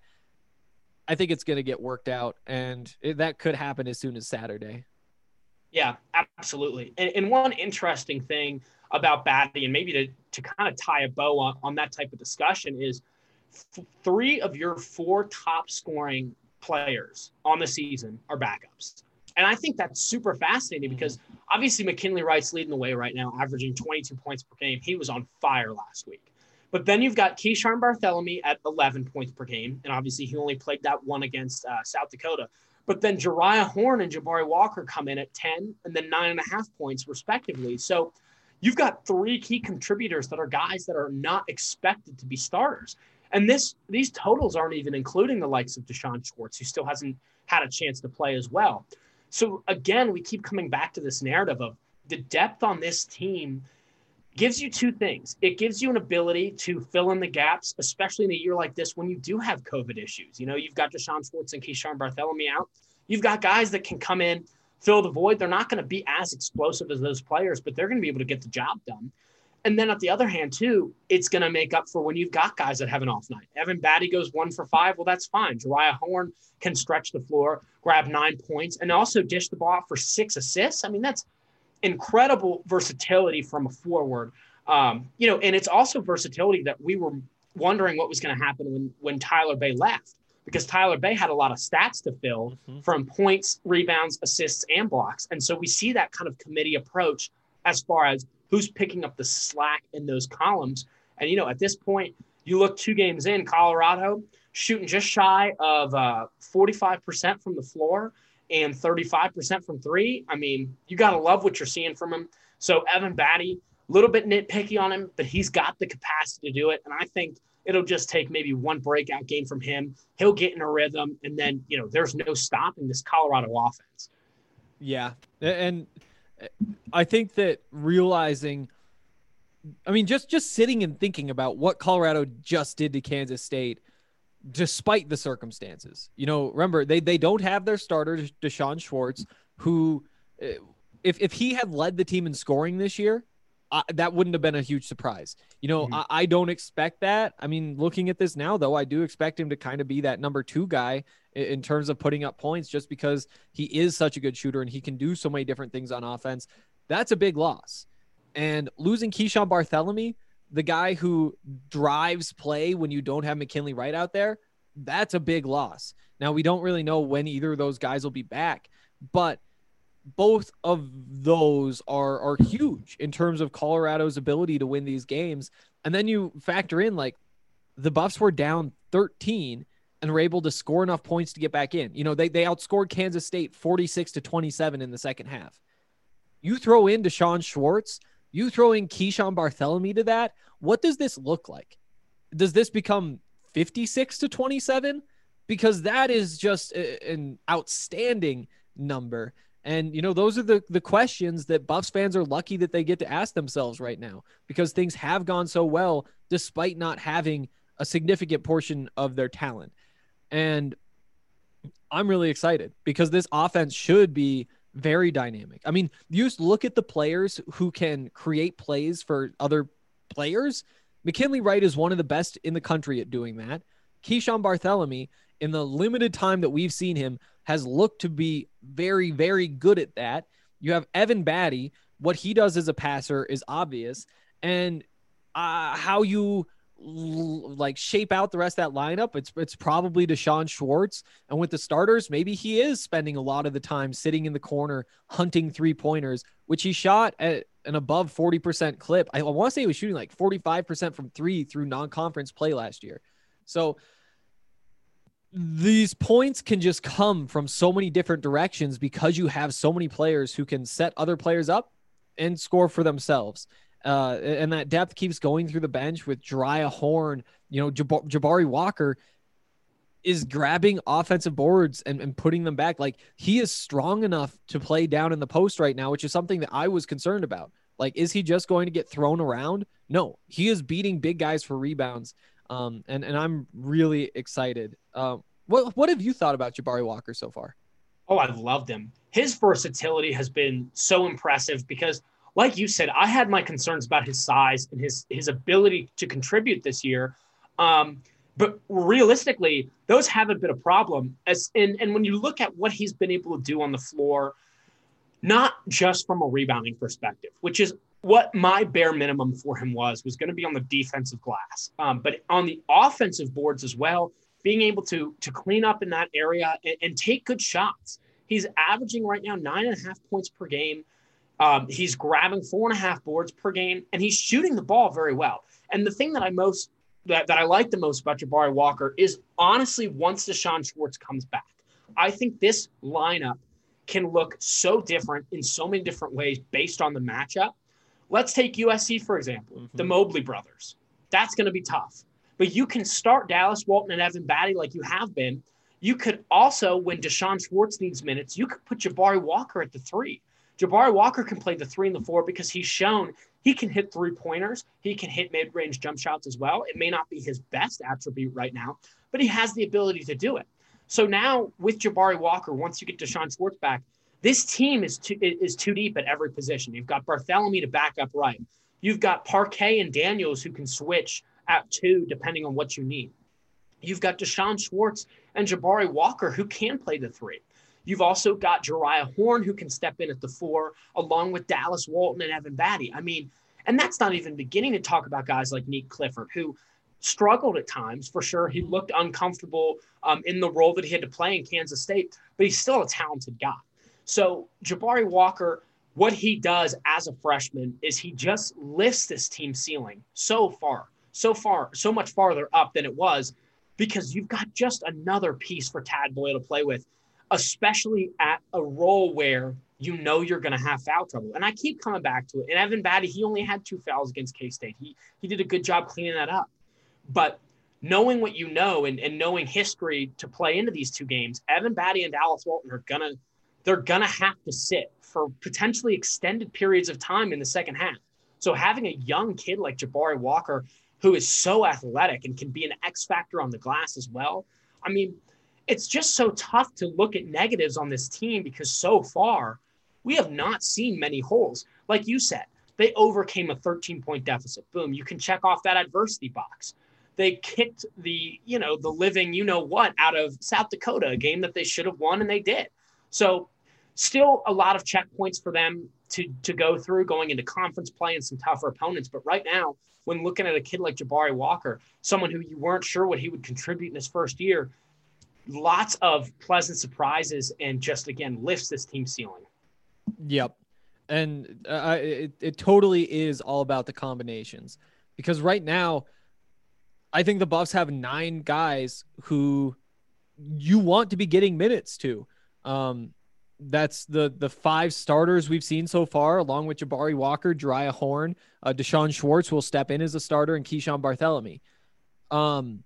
I think it's going to get worked out, and it, that could happen as soon as Saturday. Yeah, absolutely. And, and one interesting thing about Batty, and maybe to, to kind of tie a bow on, on that type of discussion, is f- three of your four top scoring players on the season are backups. And I think that's super fascinating because obviously McKinley Wright's leading the way right now, averaging twenty-two points per game. He was on fire last week. But then you've got Keyshawn Bartholomew at eleven points per game. And obviously he only played that one against uh, South Dakota. But then Jeriah Horn and Jabari Walker come in at ten and then nine and a half points respectively. So you've got three key contributors that are guys that are not expected to be starters. And this these totals aren't even including the likes of Deshaun Schwartz, who still hasn't had a chance to play as well. So again, we keep coming back to this narrative of the depth on this team gives you two things. It gives you an ability to fill in the gaps, especially in a year like this when you do have COVID issues. You know, you've got Deshaun Schwartz and Keyshawn Bartholomew out. You've got guys that can come in, fill the void. They're not going to be as explosive as those players, but they're going to be able to get the job done. And then at the other hand, too, it's going to make up for when you've got guys that have an off night. Evan Batty goes one for five. Well, that's fine. Jeriah Horn can stretch the floor, grab nine points, and also dish the ball out for six assists. I mean, that's incredible versatility from a forward. Um, you know, and it's also versatility that we were wondering what was going to happen when, when Tyler Bey left, because Tyler Bey had a lot of stats to fill mm-hmm. from points, rebounds, assists, and blocks. And so we see that kind of committee approach as far as who's picking up the slack in those columns. And, you know, at this point, you look two games in, Colorado shooting just shy of uh, forty-five percent from the floor and thirty-five percent from three. I mean, you got to love what you're seeing from him. So Evan Batty, a little bit nitpicky on him, but he's got the capacity to do it. And I think it'll just take maybe one breakout game from him. He'll get in a rhythm, and then, you know, there's no stopping this Colorado offense. Yeah. And I think that realizing, I mean, just, just sitting and thinking about what Colorado just did to Kansas State, despite the circumstances, you know, remember they, they don't have their starter, Deshaun Schwartz, who if, if he had led the team in scoring this year, Uh, that wouldn't have been a huge surprise. You know, mm-hmm. I, I don't expect that. I mean, looking at this now, though, I do expect him to kind of be that number two guy in, in terms of putting up points, just because he is such a good shooter and he can do so many different things on offense. That's a big loss. And losing Keyshawn Bartholomew, the guy who drives play when you don't have McKinley Wright out there, that's a big loss. Now, we don't really know when either of those guys will be back, but both of those are are huge in terms of Colorado's ability to win these games. And then you factor in, like, the Buffs were down thirteen and were able to score enough points to get back in. You know, they they outscored Kansas State forty-six to twenty-seven in the second half. You throw in Deshaun Schwartz, you throw in Keyshawn Bartholomew to that, what does this look like? Does this become fifty-six to twenty-seven? Because that is just a, an outstanding number. And, you know, those are the, the questions that Buffs fans are lucky that they get to ask themselves right now, because things have gone so well despite not having a significant portion of their talent. And I'm really excited because this offense should be very dynamic. I mean, you just look at the players who can create plays for other players. McKinley Wright is one of the best in the country at doing that. Keyshawn Bartholomew, in the limited time that we've seen him, has looked to be very, very good at that. You have Evan Batty. What he does as a passer is obvious. And uh, how you l- like shape out the rest of that lineup, it's it's probably Deshaun Schwartz. And with the starters, maybe he is spending a lot of the time sitting in the corner hunting three-pointers, which he shot at an above forty percent clip. I, I want to say he was shooting like forty-five percent from three through non-conference play last year. So these points can just come from so many different directions because you have so many players who can set other players up and score for themselves. Uh, and that depth keeps going through the bench with Jariah Horn. You know, Jab- Jabari Walker is grabbing offensive boards and, and putting them back. Like, he is strong enough to play down in the post right now, which is something that I was concerned about. Like, is he just going to get thrown around? No, he is beating big guys for rebounds. Um, and, and I'm really excited. Um, what, what have you thought about Jabari Walker so far? Oh, I've loved him. His versatility has been so impressive because, like you said, I had my concerns about his size and his, his ability to contribute this year. Um, but realistically, those haven't been a problem. As and, and when you look at what he's been able to do on the floor, not just from a rebounding perspective, which is what my bare minimum for him was, was going to be on the defensive glass. Um, but on the offensive boards as well, being able to, to clean up in that area and, and take good shots. He's averaging right now nine and a half points per game. Um, he's grabbing four and a half boards per game, and he's shooting the ball very well. And the thing that I most that, that I like the most about Jabari Walker is honestly, once Deshaun Schwartz comes back, I think this lineup can look so different in so many different ways based on the matchup. Let's take U S C, for example, mm-hmm. the Mobley brothers. That's going to be tough. But you can start Dallas Walton and Evan Batty like you have been. You could also, when Deshaun Schwartz needs minutes, you could put Jabari Walker at the three. Jabari Walker can play the three and the four because he's shown he can hit three-pointers. He can hit mid-range jump shots as well. It may not be his best attribute right now, but he has the ability to do it. So now with Jabari Walker, once you get Deshaun Schwartz back, this team is too, is too deep at every position. You've got Bartholomew to back up right. You've got Parquet and Daniels who can switch at two depending on what you need. You've got Deshaun Schwartz and Jabari Walker who can play the three. You've also got Jariah Horn who can step in at the four, along with Dallas Walton and Evan Batty. I mean, and that's not even beginning to talk about guys like Nick Clifford, who struggled at times, for sure. He looked uncomfortable um, in the role that he had to play in Kansas State, but he's still a talented guy. So Jabari Walker, what he does as a freshman is he just lifts this team ceiling so far, so far, so much farther up than it was, because you've got just another piece for Tad Boyle to play with, especially at a role where you know you're going to have foul trouble. And I keep coming back to it. And Evan Batty, he only had two fouls against K-State. He he did a good job cleaning that up. But knowing what you know and, and knowing history to play into these two games, Evan Batty and Dallas Walton are going to they're going to have to sit for potentially extended periods of time in the second half. So having a young kid like Jabari Walker, who is so athletic and can be an X factor on the glass as well, I mean, it's just so tough to look at negatives on this team because so far we have not seen many holes. Like you said, they overcame a thirteen-point deficit. Boom, you can check off that adversity box. They kicked the, you know, the living you-know-what out of South Dakota, a game that they should have won, and they did. So still a lot of checkpoints for them to, to go through going into conference play and some tougher opponents. But right now, when looking at a kid like Jabari Walker, someone who you weren't sure what he would contribute in his first year, lots of pleasant surprises and just, again, lifts this team ceiling. Yep. And uh, it, it totally is all about the combinations, because right now I think the Buffs have nine guys who you want to be getting minutes to. Um, that's the the five starters we've seen so far, along with Jabari Walker, Jariah Horn, uh, Deshaun Schwartz will step in as a starter, and Keyshawn Barthélemy. Um,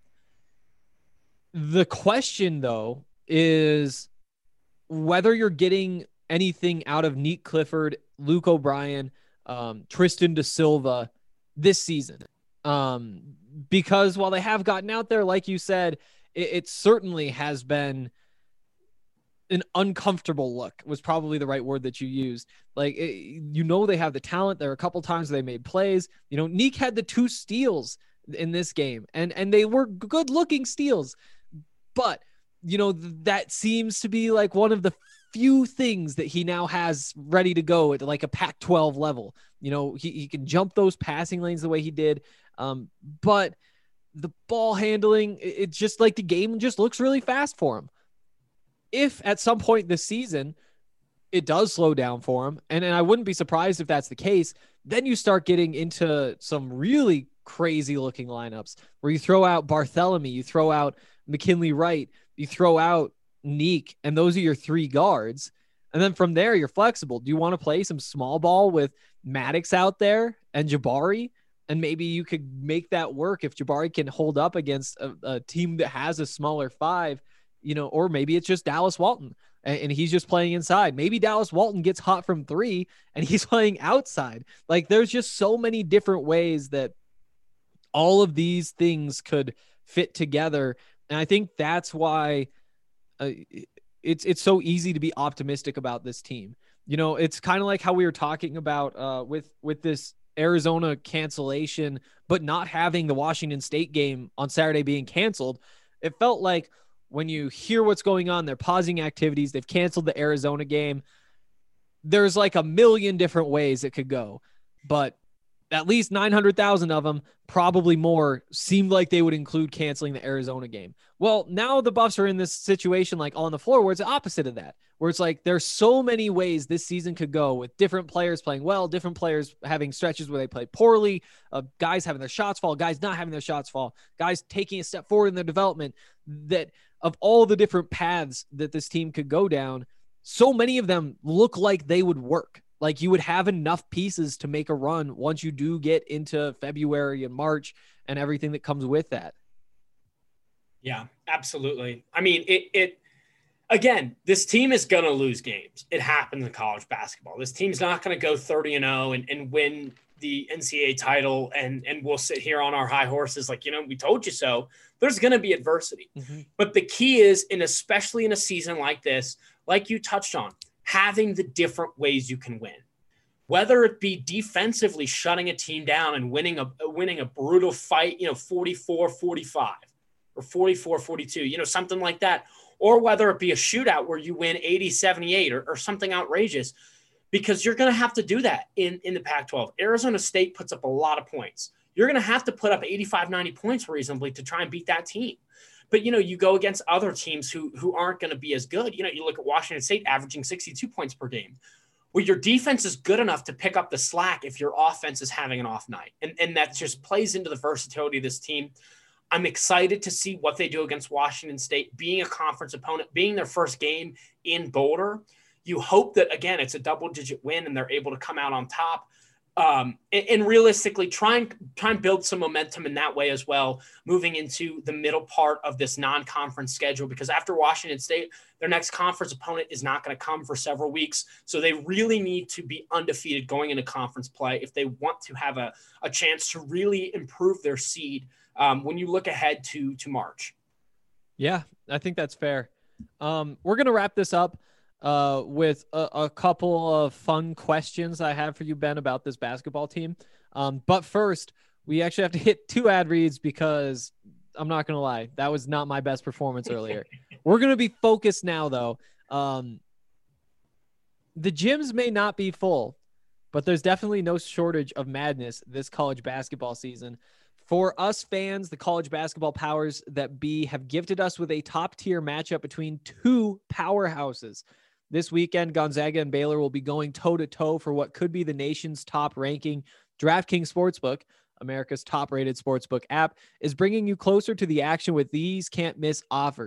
the question though is whether you're getting anything out of Nick Clifford, Luke O'Brien, um, Tristan Da Silva this season. Um, because while they have gotten out there, like you said, it, it certainly has been an uncomfortable look was probably the right word that you used. Like, it, you know, they have the talent. There are a couple times they made plays. You know, Nick had the two steals in this game, and, and they were good looking steals, but you know, that seems to be like one of the few things that he now has ready to go at like a Pac twelve level. You know, he, he can jump those passing lanes the way he did. Um, but the ball handling, it's just like the game just looks really fast for him. If at some point this season it does slow down for him, and, and I wouldn't be surprised if that's the case, then you start getting into some really crazy looking lineups where you throw out Barthélemy, you throw out McKinley Wright, you throw out Nick, and those are your three guards. And then from there, you're flexible. Do you want to play some small ball with Maddox out there and Jabari? And maybe you could make that work if Jabari can hold up against a, a team that has a smaller five, you know, or maybe it's just Dallas Walton and, and he's just playing inside. Maybe Dallas Walton gets hot from three and he's playing outside. Like, there's just so many different ways that all of these things could fit together. And I think that's why uh, it's, it's so easy to be optimistic about this team. You know, it's kind of like how we were talking about uh, with, with this Arizona cancellation, but not having the Washington State game on Saturday being canceled. It felt like when you hear what's going on, they're pausing activities. They've canceled the Arizona game. There's like a million different ways it could go, but at least nine hundred thousand of them, probably more, seemed like they would include canceling the Arizona game. Well, now the Buffs are in this situation like on the floor where it's the opposite of that, where it's like there's so many ways this season could go with different players playing well, different players having stretches where they play poorly, uh, guys having their shots fall, guys not having their shots fall, guys taking a step forward in their development, that of all the different paths that this team could go down, so many of them look like they would work. Like, you would have enough pieces to make a run once you do get into February and March and everything that comes with that. Yeah, absolutely. I mean, it, it, again, this team is going to lose games. It happens in college basketball. This team's not going to go thirty and oh and, and win the N C double A title. And, and we'll sit here on our high horses like, you know, we told you so. There's going to be adversity. Mm-hmm. But the key is, and especially in a season like this, like you touched on, having the different ways you can win, whether it be defensively shutting a team down and winning a winning a brutal fight, you know, forty-four forty-five or forty-four forty-two, you know, something like that, or whether it be a shootout where you win eighty seventy-eight or, or something outrageous, because you're going to have to do that in, in the Pac twelve. Arizona State puts up a lot of points. You're going to have to put up eighty-five, ninety points reasonably to try and beat that team. But, you know, you go against other teams who who aren't going to be as good. You know, you look at Washington State averaging sixty-two points per game. Well, your defense is good enough to pick up the slack if your offense is having an off night. And, and that just plays into the versatility of this team. I'm excited to see what they do against Washington State, being a conference opponent, being their first game in Boulder. You hope that, again, it's a double-digit win and they're able to come out on top. Um, and, and realistically try and try and build some momentum in that way as well, moving into the middle part of this non-conference schedule, because after Washington State, their next conference opponent is not going to come for several weeks. So they really need to be undefeated going into conference play if they want to have a, a chance to really improve their seed um, when you look ahead to, to March. Yeah, I think that's fair. Um, we're going to wrap this up uh, with a, a couple of fun questions I have for you, Ben, about this basketball team. Um, but first, we actually have to hit two ad reads because I'm not going to lie, that was not my best performance earlier. We're going to be focused now, though. Um, the gyms may not be full, but there's definitely no shortage of madness this college basketball season. For us fans, the college basketball powers that be have gifted us with a top-tier matchup between two powerhouses. This weekend, Gonzaga and Baylor will be going toe-to-toe for what could be the nation's top-ranking. DraftKings Sportsbook, America's top-rated sportsbook app, is bringing you closer to the action with these can't-miss offers.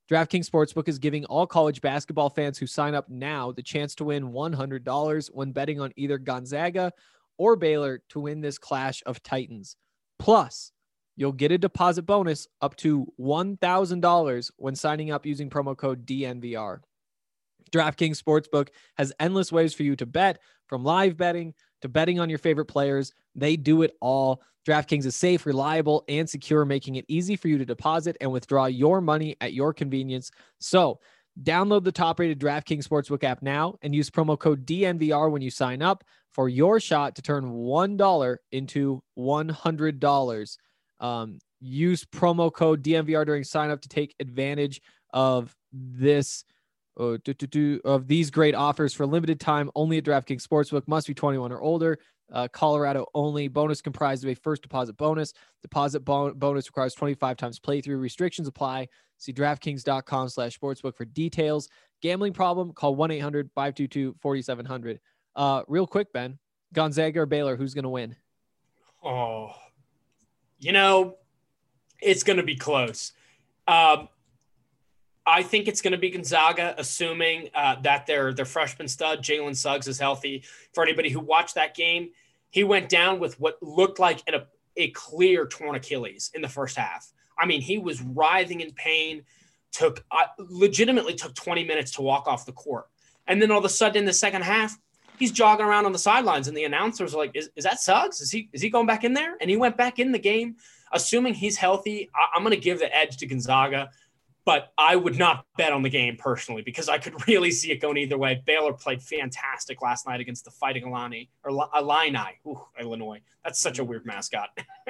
DraftKings Sportsbook is giving all college basketball fans who sign up now the chance to win one hundred dollars when betting on either Gonzaga or Baylor to win this clash of titans. Plus, you'll get a deposit bonus up to one thousand dollars when signing up using promo code D N V R. DraftKings Sportsbook has endless ways for you to bet, from live betting to betting on your favorite players. They do it all. DraftKings is safe, reliable, and secure, making it easy for you to deposit and withdraw your money at your convenience. So, download the top-rated DraftKings Sportsbook app now and use promo code D N V R when you sign up for your shot to turn one dollar into one hundred dollars. Um, use promo code D N V R during sign-up to take advantage of this uh, do, do, do, of these great offers for limited time only at DraftKings Sportsbook. Must be twenty-one or older. Uh, Colorado only. Bonus comprised of a first deposit bonus. Deposit bon- bonus requires twenty-five times playthrough. Restrictions apply. See DraftKings.com slash sportsbook for details. Gambling problem? Call one eight hundred five two two four seven zero zero. Uh, real quick, Ben. Gonzaga or Baylor, who's going to win? Oh, you know, it's going to be close. Um, I think it's going to be Gonzaga, assuming uh, that their their freshman stud, Jalen Suggs, is healthy. For anybody who watched that game, he went down with what looked like an, a, a clear torn Achilles in the first half. I mean, he was writhing in pain, took uh, legitimately took twenty minutes to walk off the court. And then all of a sudden in the second half, he's jogging around on the sidelines, and the announcers are like, is, is that Suggs? Is he is he going back in there? And he went back in the game. Assuming he's healthy, I, I'm going to give the edge to Gonzaga. But I would not bet on the game personally because I could really see it going either way. Baylor played fantastic last night against the Fighting Illini or Illini, Ooh, Illinois. That's such a weird mascot.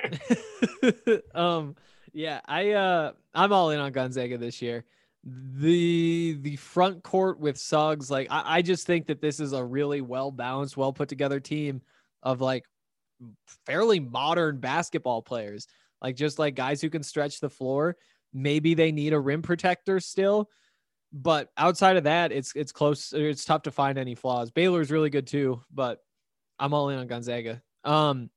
um, yeah, I uh, I'm all in on Gonzaga this year. The the front court with Suggs, like I, I just think that this is a really well balanced, well put together team of like fairly modern basketball players, like just like guys who can stretch the floor. Maybe they need a rim protector still, but outside of that, it's it's close. It's tough to find any flaws. Baylor is really good too, but I'm all in on Gonzaga. Um,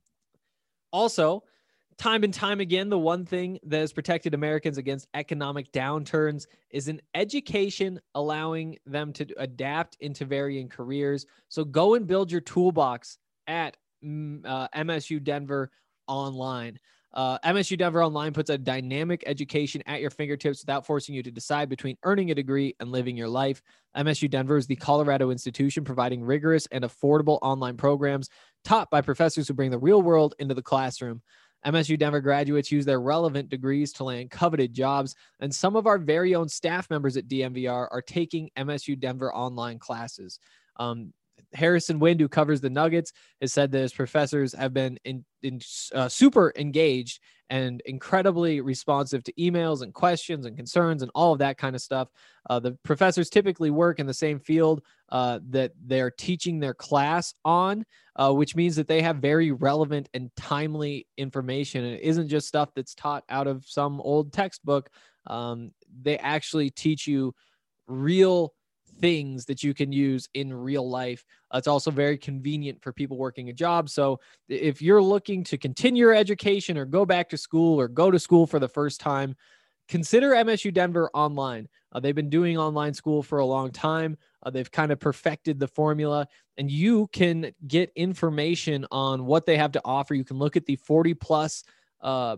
also, time and time again, the one thing that has protected Americans against economic downturns is an education allowing them to adapt into varying careers. So go and build your toolbox at uh, M S U Denver Online. Uh, M S U Denver Online puts a dynamic education at your fingertips without forcing you to decide between earning a degree and living your life. M S U Denver is the Colorado institution providing rigorous and affordable online programs taught by professors who bring the real world into the classroom. M S U Denver graduates use their relevant degrees to land coveted jobs, and some of our very own staff members at D M V R are taking M S U Denver online classes. Um, Harrison Wind, who covers the Nuggets, has said that his professors have been in, in uh, super engaged and incredibly responsive to emails and questions and concerns and all of that kind of stuff. Uh, the professors typically work in the same field uh, that they're teaching their class on, uh, which means that they have very relevant and timely information. And it isn't just stuff that's taught out of some old textbook. Um, they actually teach you real things that you can use in real life. Uh, it's also very convenient for people working a job. So if you're looking to continue your education or go back to school or go to school for the first time, consider M S U Denver Online. Uh, they've been doing online school for a long time. Uh, they've kind of perfected the formula, and you can get information on what they have to offer. You can look at the forty plus uh,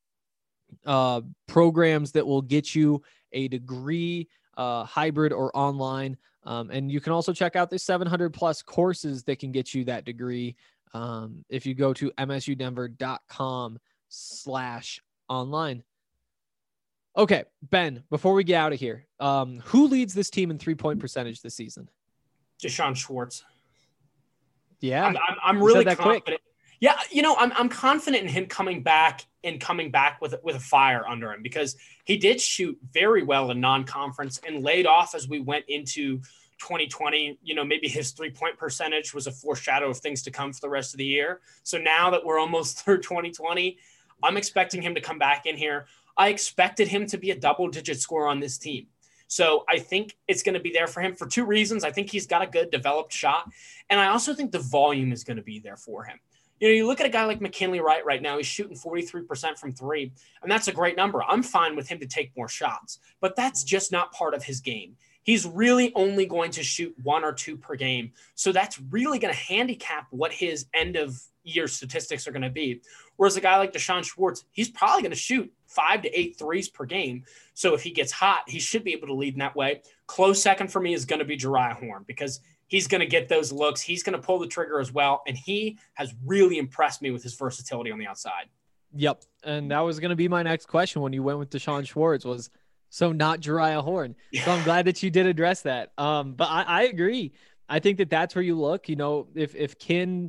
uh, programs that will get you a degree, uh, hybrid or online. Um, and you can also check out the seven hundred plus courses that can get you that degree. Um, if you go to msudenver.com slash online. Okay, Ben, before we get out of here, um, who leads this team in three point percentage this season? Deshaun Schwartz. Yeah. I'm, I'm, I'm You really said that confident. quick. Yeah, you know, I'm I'm confident in him coming back and coming back with with a fire under him because he did shoot very well in non-conference and laid off as we went into twenty twenty. You know, maybe his three-point percentage was a foreshadow of things to come for the rest of the year. So now that we're almost through twenty twenty, I'm expecting him to come back in here. I expected him to be a double-digit scorer on this team. So I think it's going to be there for him for two reasons. I think he's got a good developed shot, and I also think the volume is going to be there for him. You know, you look at a guy like McKinley Wright right now, he's shooting forty-three percent from three, and that's a great number. I'm fine with him to take more shots, but that's just not part of his game. He's really only going to shoot one or two per game. So that's really going to handicap what his end of year statistics are going to be. Whereas a guy like Deshaun Schwartz, he's probably going to shoot five to eight threes per game. So if he gets hot, he should be able to lead in that way. Close second for me is going to be Jeriah Horn, because he's going to get those looks. He's going to pull the trigger as well. And he has really impressed me with his versatility on the outside. Yep. And that was going to be my next question when you went with Deshaun Schwartz was, so not Jeriah Horn. So I'm glad that you did address that. Um, but I, I agree. I think that that's where you look, you know, if, if Kin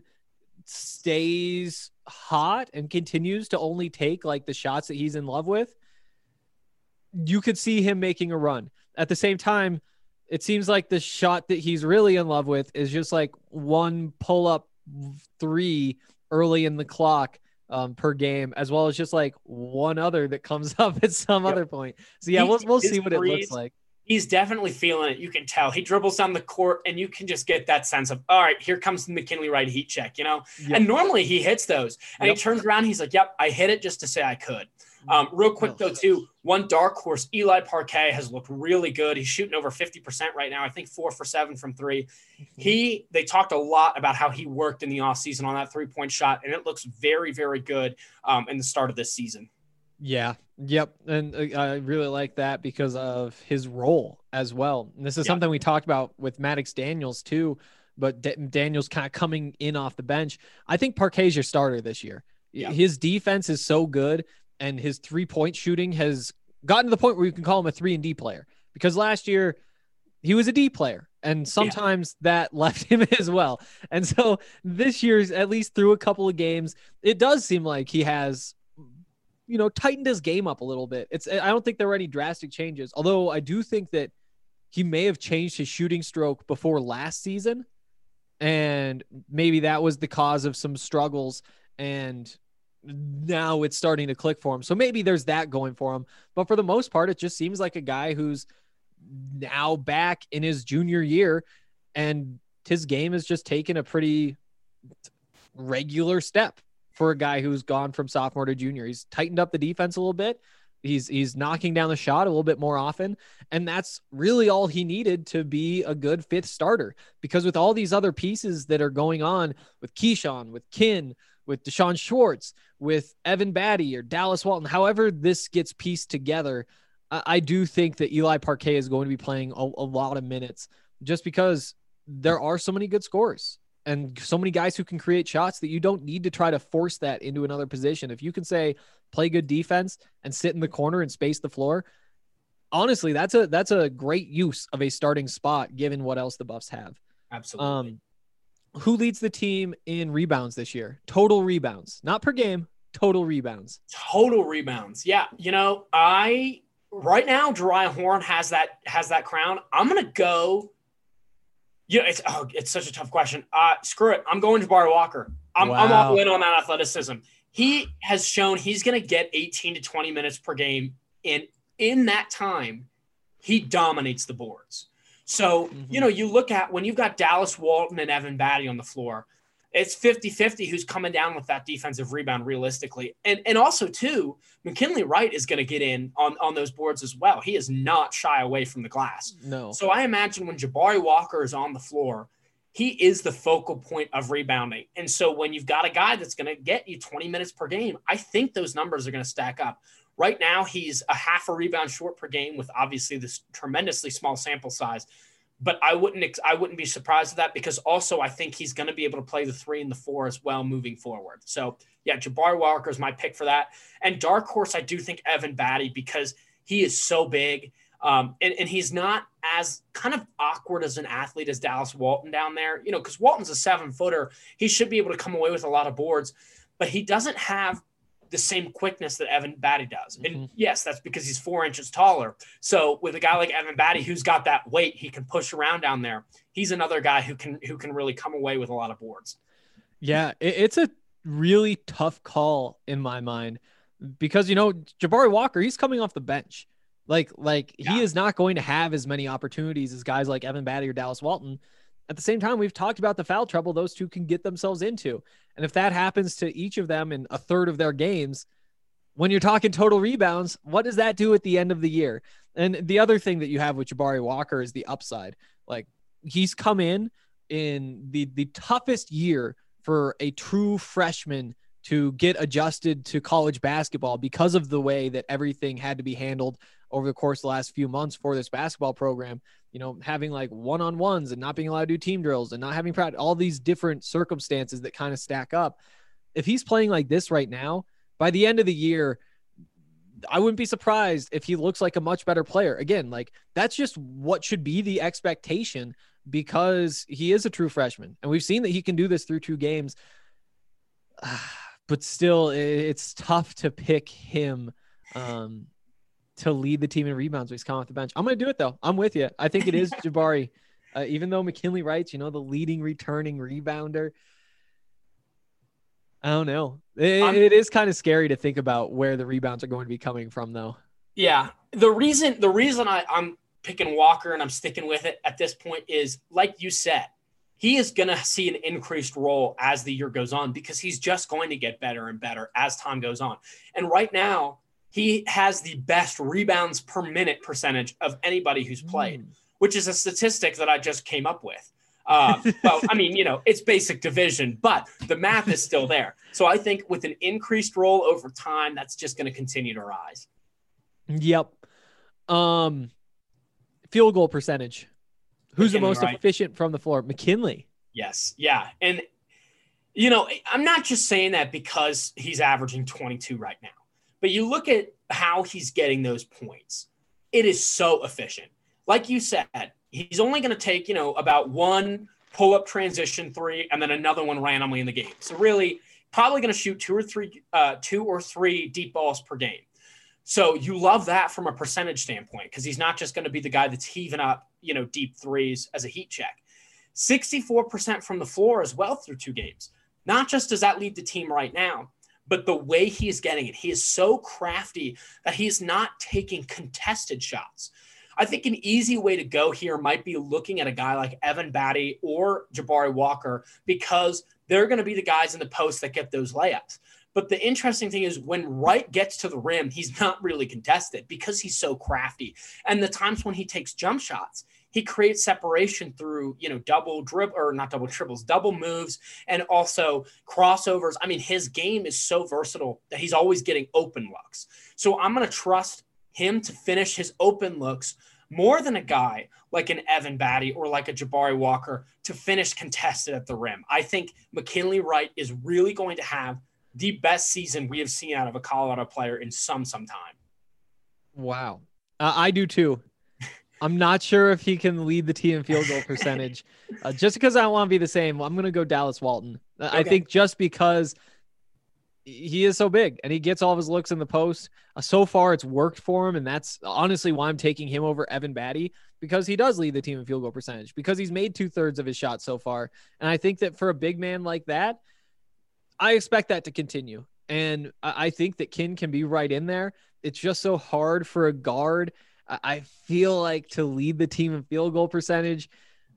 stays hot and continues to only take like the shots that he's in love with, you could see him making a run. At the same time, it seems like the shot that he's really in love with is just like one pull up three early in the clock um, per game, as well as just like one other that comes up at some yep. other point. So yeah, he, we'll, we'll see what it looks like. He's definitely feeling it. You can tell he dribbles down the court and you can just get that sense of, all right, here comes the McKinley Wright heat check, you know? Yep. And normally he hits those and yep. he turns around. He's like, yep, I hit it just to say I could. Um, real quick though, too, one dark horse, Eli Parquet has looked really good. He's shooting over fifty percent right now. I think four for seven from three. He, they talked a lot about how he worked in the off season on that three point shot. And it looks very, very good um, in the start of this season. Yeah. Yep. And uh, I really like that because of his role as well. And this is yep. something we talked about with Maddox Daniels too, but D- Daniels kind of coming in off the bench. I think Parquet's your starter this year. Yep. His defense is so good and his three point shooting has gotten to the point where you can call him a three and D player, because last year he was a D player and sometimes yeah. that left him as well. And so this year's, at least through a couple of games, it does seem like he has, you know, tightened his game up a little bit. It's, I don't think there were any drastic changes, although I do think that he may have changed his shooting stroke before last season. And maybe that was the cause of some struggles, and now it's starting to click for him. So maybe there's that going for him, but for the most part, it just seems like a guy who's now back in his junior year and his game has just taken a pretty regular step for a guy who's gone from sophomore to junior. He's tightened up the defense a little bit. He's, he's knocking down the shot a little bit more often. And that's really all he needed to be a good fifth starter, because with all these other pieces that are going on with Keyshawn, with Kin, with Deshaun Schwartz, with Evan Batty or Dallas Walton, however this gets pieced together, I, I do think that Eli Parquet is going to be playing a, a lot of minutes, just because there are so many good scorers and so many guys who can create shots that you don't need to try to force that into another position. If you can say, play good defense and sit in the corner and space the floor, honestly, that's a, that's a great use of a starting spot given what else the Buffs have. Absolutely. Um, Who leads the team in rebounds this year? Total rebounds, not per game, total rebounds. Total rebounds. Yeah. You know, I, right now, Jeriah Horn has that, has that crown. I'm going to go. Yeah. It's, oh, it's such a tough question. Uh, screw it. I'm going to Jabari Walker. I'm, wow. I'm all in on that athleticism. He has shown he's going to get eighteen to twenty minutes per game. And in that time, he dominates the boards. So, mm-hmm. you know, you look at when you've got Dallas Walton and Evan Batty on the floor, it's fifty-fifty who's coming down with that defensive rebound realistically. And and also, too, McKinley Wright is going to get in on, on those boards as well. He is not shy away from the glass. No. So I imagine when Jabari Walker is on the floor, he is the focal point of rebounding. And so when you've got a guy that's going to get you twenty minutes per game, I think those numbers are going to stack up. Right now, he's a half a rebound short per game with obviously this tremendously small sample size. But I wouldn't I wouldn't be surprised at that, because also I think he's going to be able to play the three and the four as well moving forward. So, yeah, Jabari Walker is my pick for that. And dark horse, I do think Evan Batty, because he is so big. Um, and, and he's not as kind of awkward as an athlete as Dallas Walton down there, you know, because Walton's a seven footer. He should be able to come away with a lot of boards, but he doesn't have the same quickness that Evan Batty does. And mm-hmm. yes, that's because he's four inches taller. So with a guy like Evan Batty, who's got that weight, he can push around down there. He's another guy who can, who can really come away with a lot of boards. Yeah. It, it's a really tough call in my mind, because, you know, Jabari Walker, he's coming off the bench. Like, like yeah. he is not going to have as many opportunities as guys like Evan Batty or Dallas Walton. At the same time, we've talked about the foul trouble those two can get themselves into. And if that happens to each of them in a third of their games, when you're talking total rebounds, what does that do at the end of the year? And the other thing that you have with Jabari Walker is the upside. Like, he's come in in the, the toughest year for a true freshman to get adjusted to college basketball because of the way that everything had to be handled over the course of the last few months for this basketball program. You know, having like one-on-ones and not being allowed to do team drills and not having practice, all these different circumstances that kind of stack up. If he's playing like this right now, by the end of the year, I wouldn't be surprised if he looks like a much better player. Again, like, that's just what should be the expectation because he is a true freshman. And we've seen that he can do this through two games. But still, it's tough to pick him um, to lead the team in rebounds when he's coming off the bench. I'm going to do it, though. I'm with you. I think it is Jabari. Uh, even though McKinley Wright's, you know, the leading returning rebounder. I don't know. It, it is kind of scary to think about where the rebounds are going to be coming from, though. Yeah. The reason the reason I, I'm picking Walker and I'm sticking with it at this point is, like you said, he is going to see an increased role as the year goes on because he's just going to get better and better as time goes on. And right now, he has the best rebounds per minute percentage of anybody who's played, mm. which is a statistic that I just came up with. Uh, well, I mean, you know, it's basic division, but the math is still there. So I think with an increased role over time, that's just going to continue to rise. Yep. Um, field goal percentage. Who's McKinley, the most right? efficient from the floor? McKinley. Yes. Yeah. And, you know, I'm not just saying that because he's averaging twenty-two right now, but you look at how he's getting those points. It is so efficient. Like you said, he's only going to take, you know, about one pull-up transition three and then another one randomly in the game. So really probably going to shoot two or three, uh, two or three deep balls per game. So you love that from a percentage standpoint because he's not just going to be the guy that's heaving up, you know, deep threes as a heat check. sixty-four percent from the floor as well through two games. Not just does that lead the team right now, but the way he is getting it, he is so crafty that he is not taking contested shots. I think an easy way to go here might be looking at a guy like Evan Batty or Jabari Walker because they're going to be the guys in the post that get those layups. But the interesting thing is when Wright gets to the rim, he's not really contested because he's so crafty. And the times when he takes jump shots, he creates separation through, you know, double dribble or not double dribbles, double moves, and also crossovers. I mean, his game is so versatile that he's always getting open looks. So I'm going to trust him to finish his open looks more than a guy like an Evan Batty or like a Jabari Walker to finish contested at the rim. I think McKinley Wright is really going to have the best season we have seen out of a Colorado player in some, some time. Wow. Uh, I do too. I'm not sure if he can lead the team in field goal percentage. Uh, just because I don't want to be the same, I'm going to go Dallas Walton. Uh, okay. I think just because he is so big and he gets all of his looks in the post. Uh, so far, it's worked for him, and that's honestly why I'm taking him over Evan Batty because he does lead the team in field goal percentage because he's made two-thirds of his shots so far. And I think that for a big man like that, I expect that to continue. And I think that Kin can be right in there. It's just so hard for a guard. I feel like to lead the team in field goal percentage,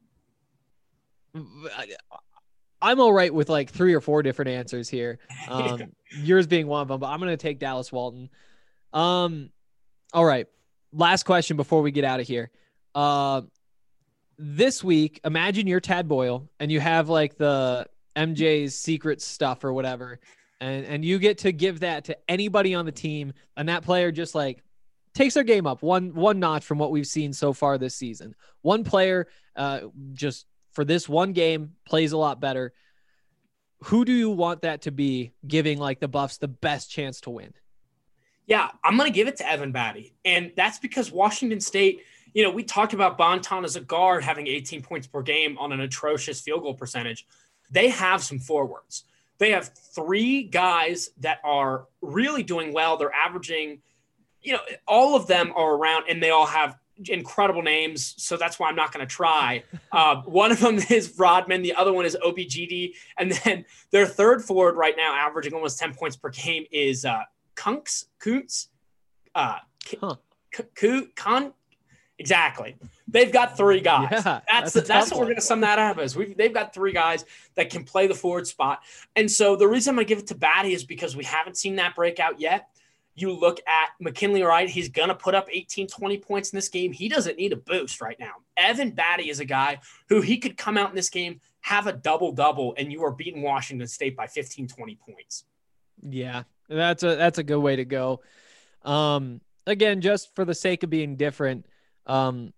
I'm all right with like three or four different answers here. Um, yours being one of them, but I'm going to take Dallas Walton. Um, all right. Last question before we get out of here. Uh, this week, imagine you're Tad Boyle and you have like the M J's secret stuff or whatever. And, and you get to give that to anybody on the team. And that player just like takes their game up one, one notch from what we've seen so far this season. One player uh, just for this one game plays a lot better. Who do you want that to be giving like the Buffs the best chance to win? Yeah, I'm going to give it to Evan Batty. And that's because Washington State, you know, we talked about Bonton as a guard having eighteen points per game on an atrocious field goal percentage. They have some forwards. They have three guys that are really doing well. They're averaging, you know, all of them are around and they all have incredible names. So that's why I'm not going to try. Uh, one of them is Rodman. The other one is O B G D. And then their third forward right now, averaging almost ten points per game is uh, Kunks, Kuntz, uh, huh. K- K- Con, Exactly. They've got three guys. Yeah, that's that's, that's, what one. we're going to sum that up as. We've, they've got three guys that can play the forward spot. And so the reason I'm going to give it to Batty is because we haven't seen that breakout yet. You look at McKinley Wright, he's going to put up eighteen, twenty points in this game. He doesn't need a boost right now. Evan Batty is a guy who he could come out in this game, have a double-double, and you are beating Washington State by fifteen, twenty points. Yeah, that's a that's a good way to go. Um, again, just for the sake of being different, um,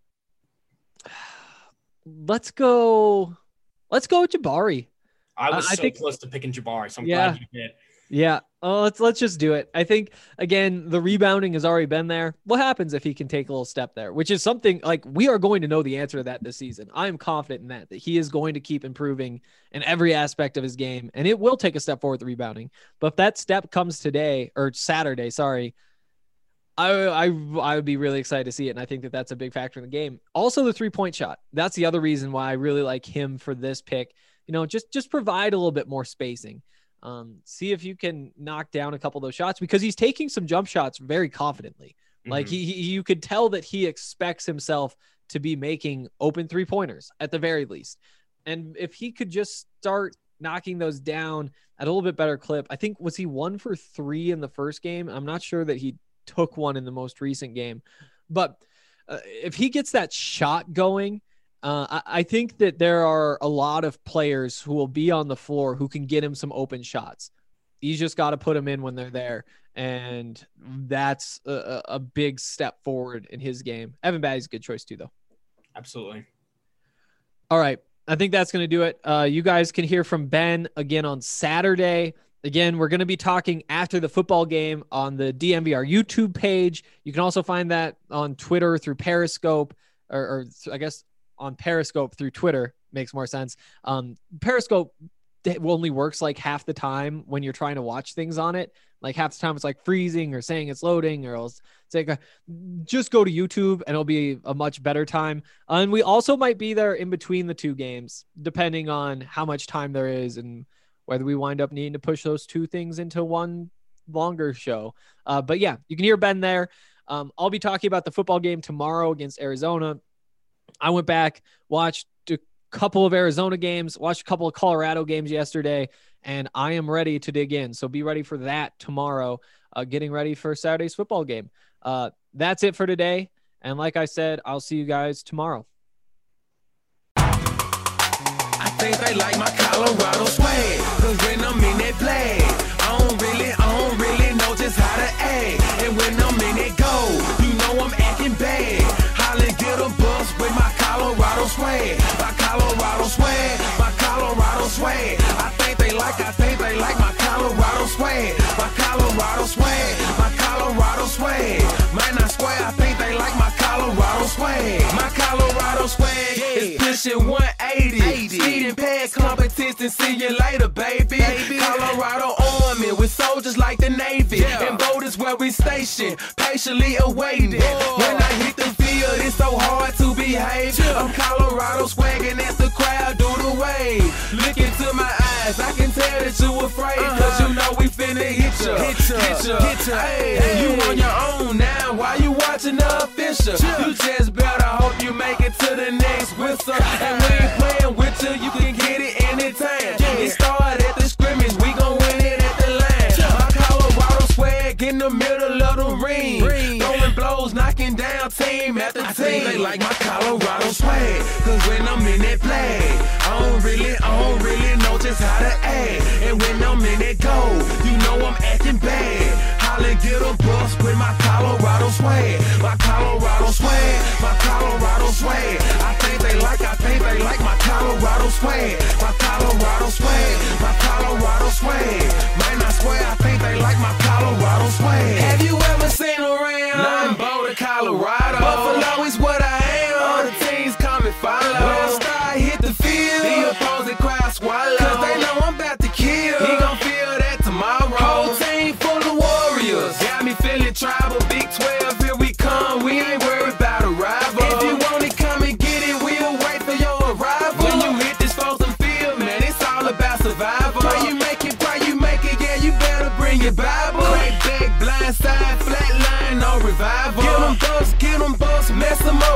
let's go. Let's go with Jabari. I was I so think, close to picking Jabari, so I'm yeah, glad you did. Yeah. Oh, let's let's just do it. I think again, the rebounding has already been there. What happens if he can take a little step there? Which is something like we are going to know the answer to that this season. I am confident in that that he is going to keep improving in every aspect of his game, and it will take a step forward with rebounding. But if that step comes today or Saturday, sorry, I I I would be really excited to see it, and I think that that's a big factor in the game. Also, the three point shot. That's the other reason why I really like him for this pick. You know, just just provide a little bit more spacing. Um, see if you can knock down a couple of those shots because he's taking some jump shots very confidently. Mm-hmm. Like he, he, you could tell that he expects himself to be making open three pointers at the very least. And if he could just start knocking those down at a little bit better clip, I think, was he one for three in the first game? I'm not sure that he took one in the most recent game, but uh, if he gets that shot going, Uh, I, I think that there are a lot of players who will be on the floor who can get him some open shots. He's just got to put them in when they're there. And that's a, a big step forward in his game. Evan Batty's a good choice too, though. Absolutely. All right. I think that's going to do it. Uh, you guys can hear from Ben again on Saturday. Again, we're going to be talking after the football game on the D M V R YouTube page. You can also find that on Twitter through Periscope, or, or I guess on Periscope through Twitter makes more sense. Um, Periscope only works like half the time when you're trying to watch things on it. Like half the time it's like freezing or saying it's loading, or else it's like a, just go to YouTube and it'll be a much better time. Uh, and we also might be there in between the two games, depending on how much time there is and whether we wind up needing to push those two things into one longer show. Uh, but yeah, you can hear Ben there. Um, I'll be talking about the football game tomorrow against Arizona. I went back, watched a couple of Arizona games, watched a couple of Colorado games yesterday, and I am ready to dig in. So be ready for that tomorrow, uh, getting ready for Saturday's football game. Uh, that's it for today. And like I said, I'll see you guys tomorrow. I think they like my Colorado swag, cause when I'm in that play, I don't really, I don't really know just how to act. And when I'm in that go, you know I'm acting bad. Holla, get a bus with my Colorado swag, my Colorado swag, my Colorado swag. I think they like, I think they like my Colorado swag, my Colorado swag, my Colorado swag. Man, I swear, I think they like my Colorado swag, my Colorado swag. It's pushing one eighty, speeding past competition. See you later, baby. baby. Colorado Army with soldiers like the Navy, yeah. And boat is where we station, patiently awaiting. Whoa. When I hit the field, it's so hard to behave. Yeah. I'm Colorado swagging as the crowd do the wave. Look into my eyes, I can tell that you afraid, uh-huh. Cause you know we finna hit ya, hit ya, hit ya. Hit ya. Hey, hey. You on your own now, why you watching the official? Yeah. You just better hope you make it to the next whistle. And we ain't playing with you, you can get it anytime. Yeah. It started at the scrimmage, we gon' win it at the line. Yeah. My Colorado swag in the middle of the ring, ring. Throwing blows, knocking down team after I team. Think they like my Colorado swag, cause when I'm in that play, I don't really, I don't really know just how to act. And when I'm in that go, you know I'm acting bad. Holla, get a bus with my Colorado swag, my Colorado swag, my Colorado swag. I think they like, I think they like my Colorado swag, my Colorado swag, my Colorado swag. Man, I swear, I think they like my Colorado swag. Have you ever seen around? Nothing but Colorado. Buffalo is what I am. All the teams come and follow. When I start hit the field, the opposing crowd swallow. Cause they know I'm about to kill. He gon' feel that tomorrow. Whole team full of warriors. Got me feeling tribal. Big twelve, here we come. We ain't worried about a rival. If you want it, come and get it. We'll wait for your arrival. When you hit this frozen field, man, it's all about survival. Pray you make it, pray you make it. Yeah, you better bring your Bible. Crack back, blind side, flat line, no revival. Get them bucks, get them bucks, mess them up. We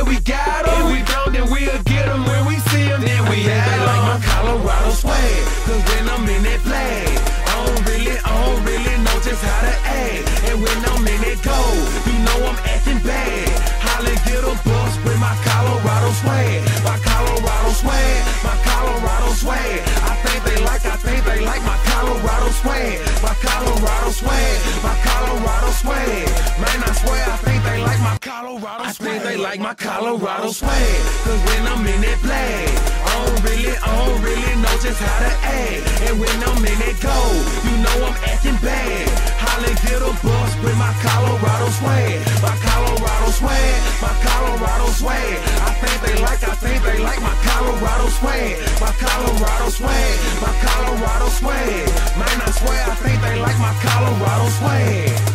we got 'em. If we don't, then we'll get 'em when we see 'em. Then we have they like my Colorado swag. Cause when I'm in that flag, I don't really, I don't really know just how to act. And when I'm in that gold, you know I'm acting bad. Holly get a bus with my Colorado swag. My Colorado swag, my Colorado swag. I think they like, I think they like my Colorado swag. My Colorado swag, my Colorado swag. Man, I swear I think they like my Colorado swag. I think they like my Colorado swag. Cause when I'm in that flag, I don't really, I don't really know just how to act. And when I'm in that gold, you know I'm acting bad. Holly get a bus with my Colorado swag. My Colorado swag, my Colorado swag. I think they like, I think they like my Colorado swag. My Colorado swag, my Colorado swag. Man, I swear I think they like my Colorado swag.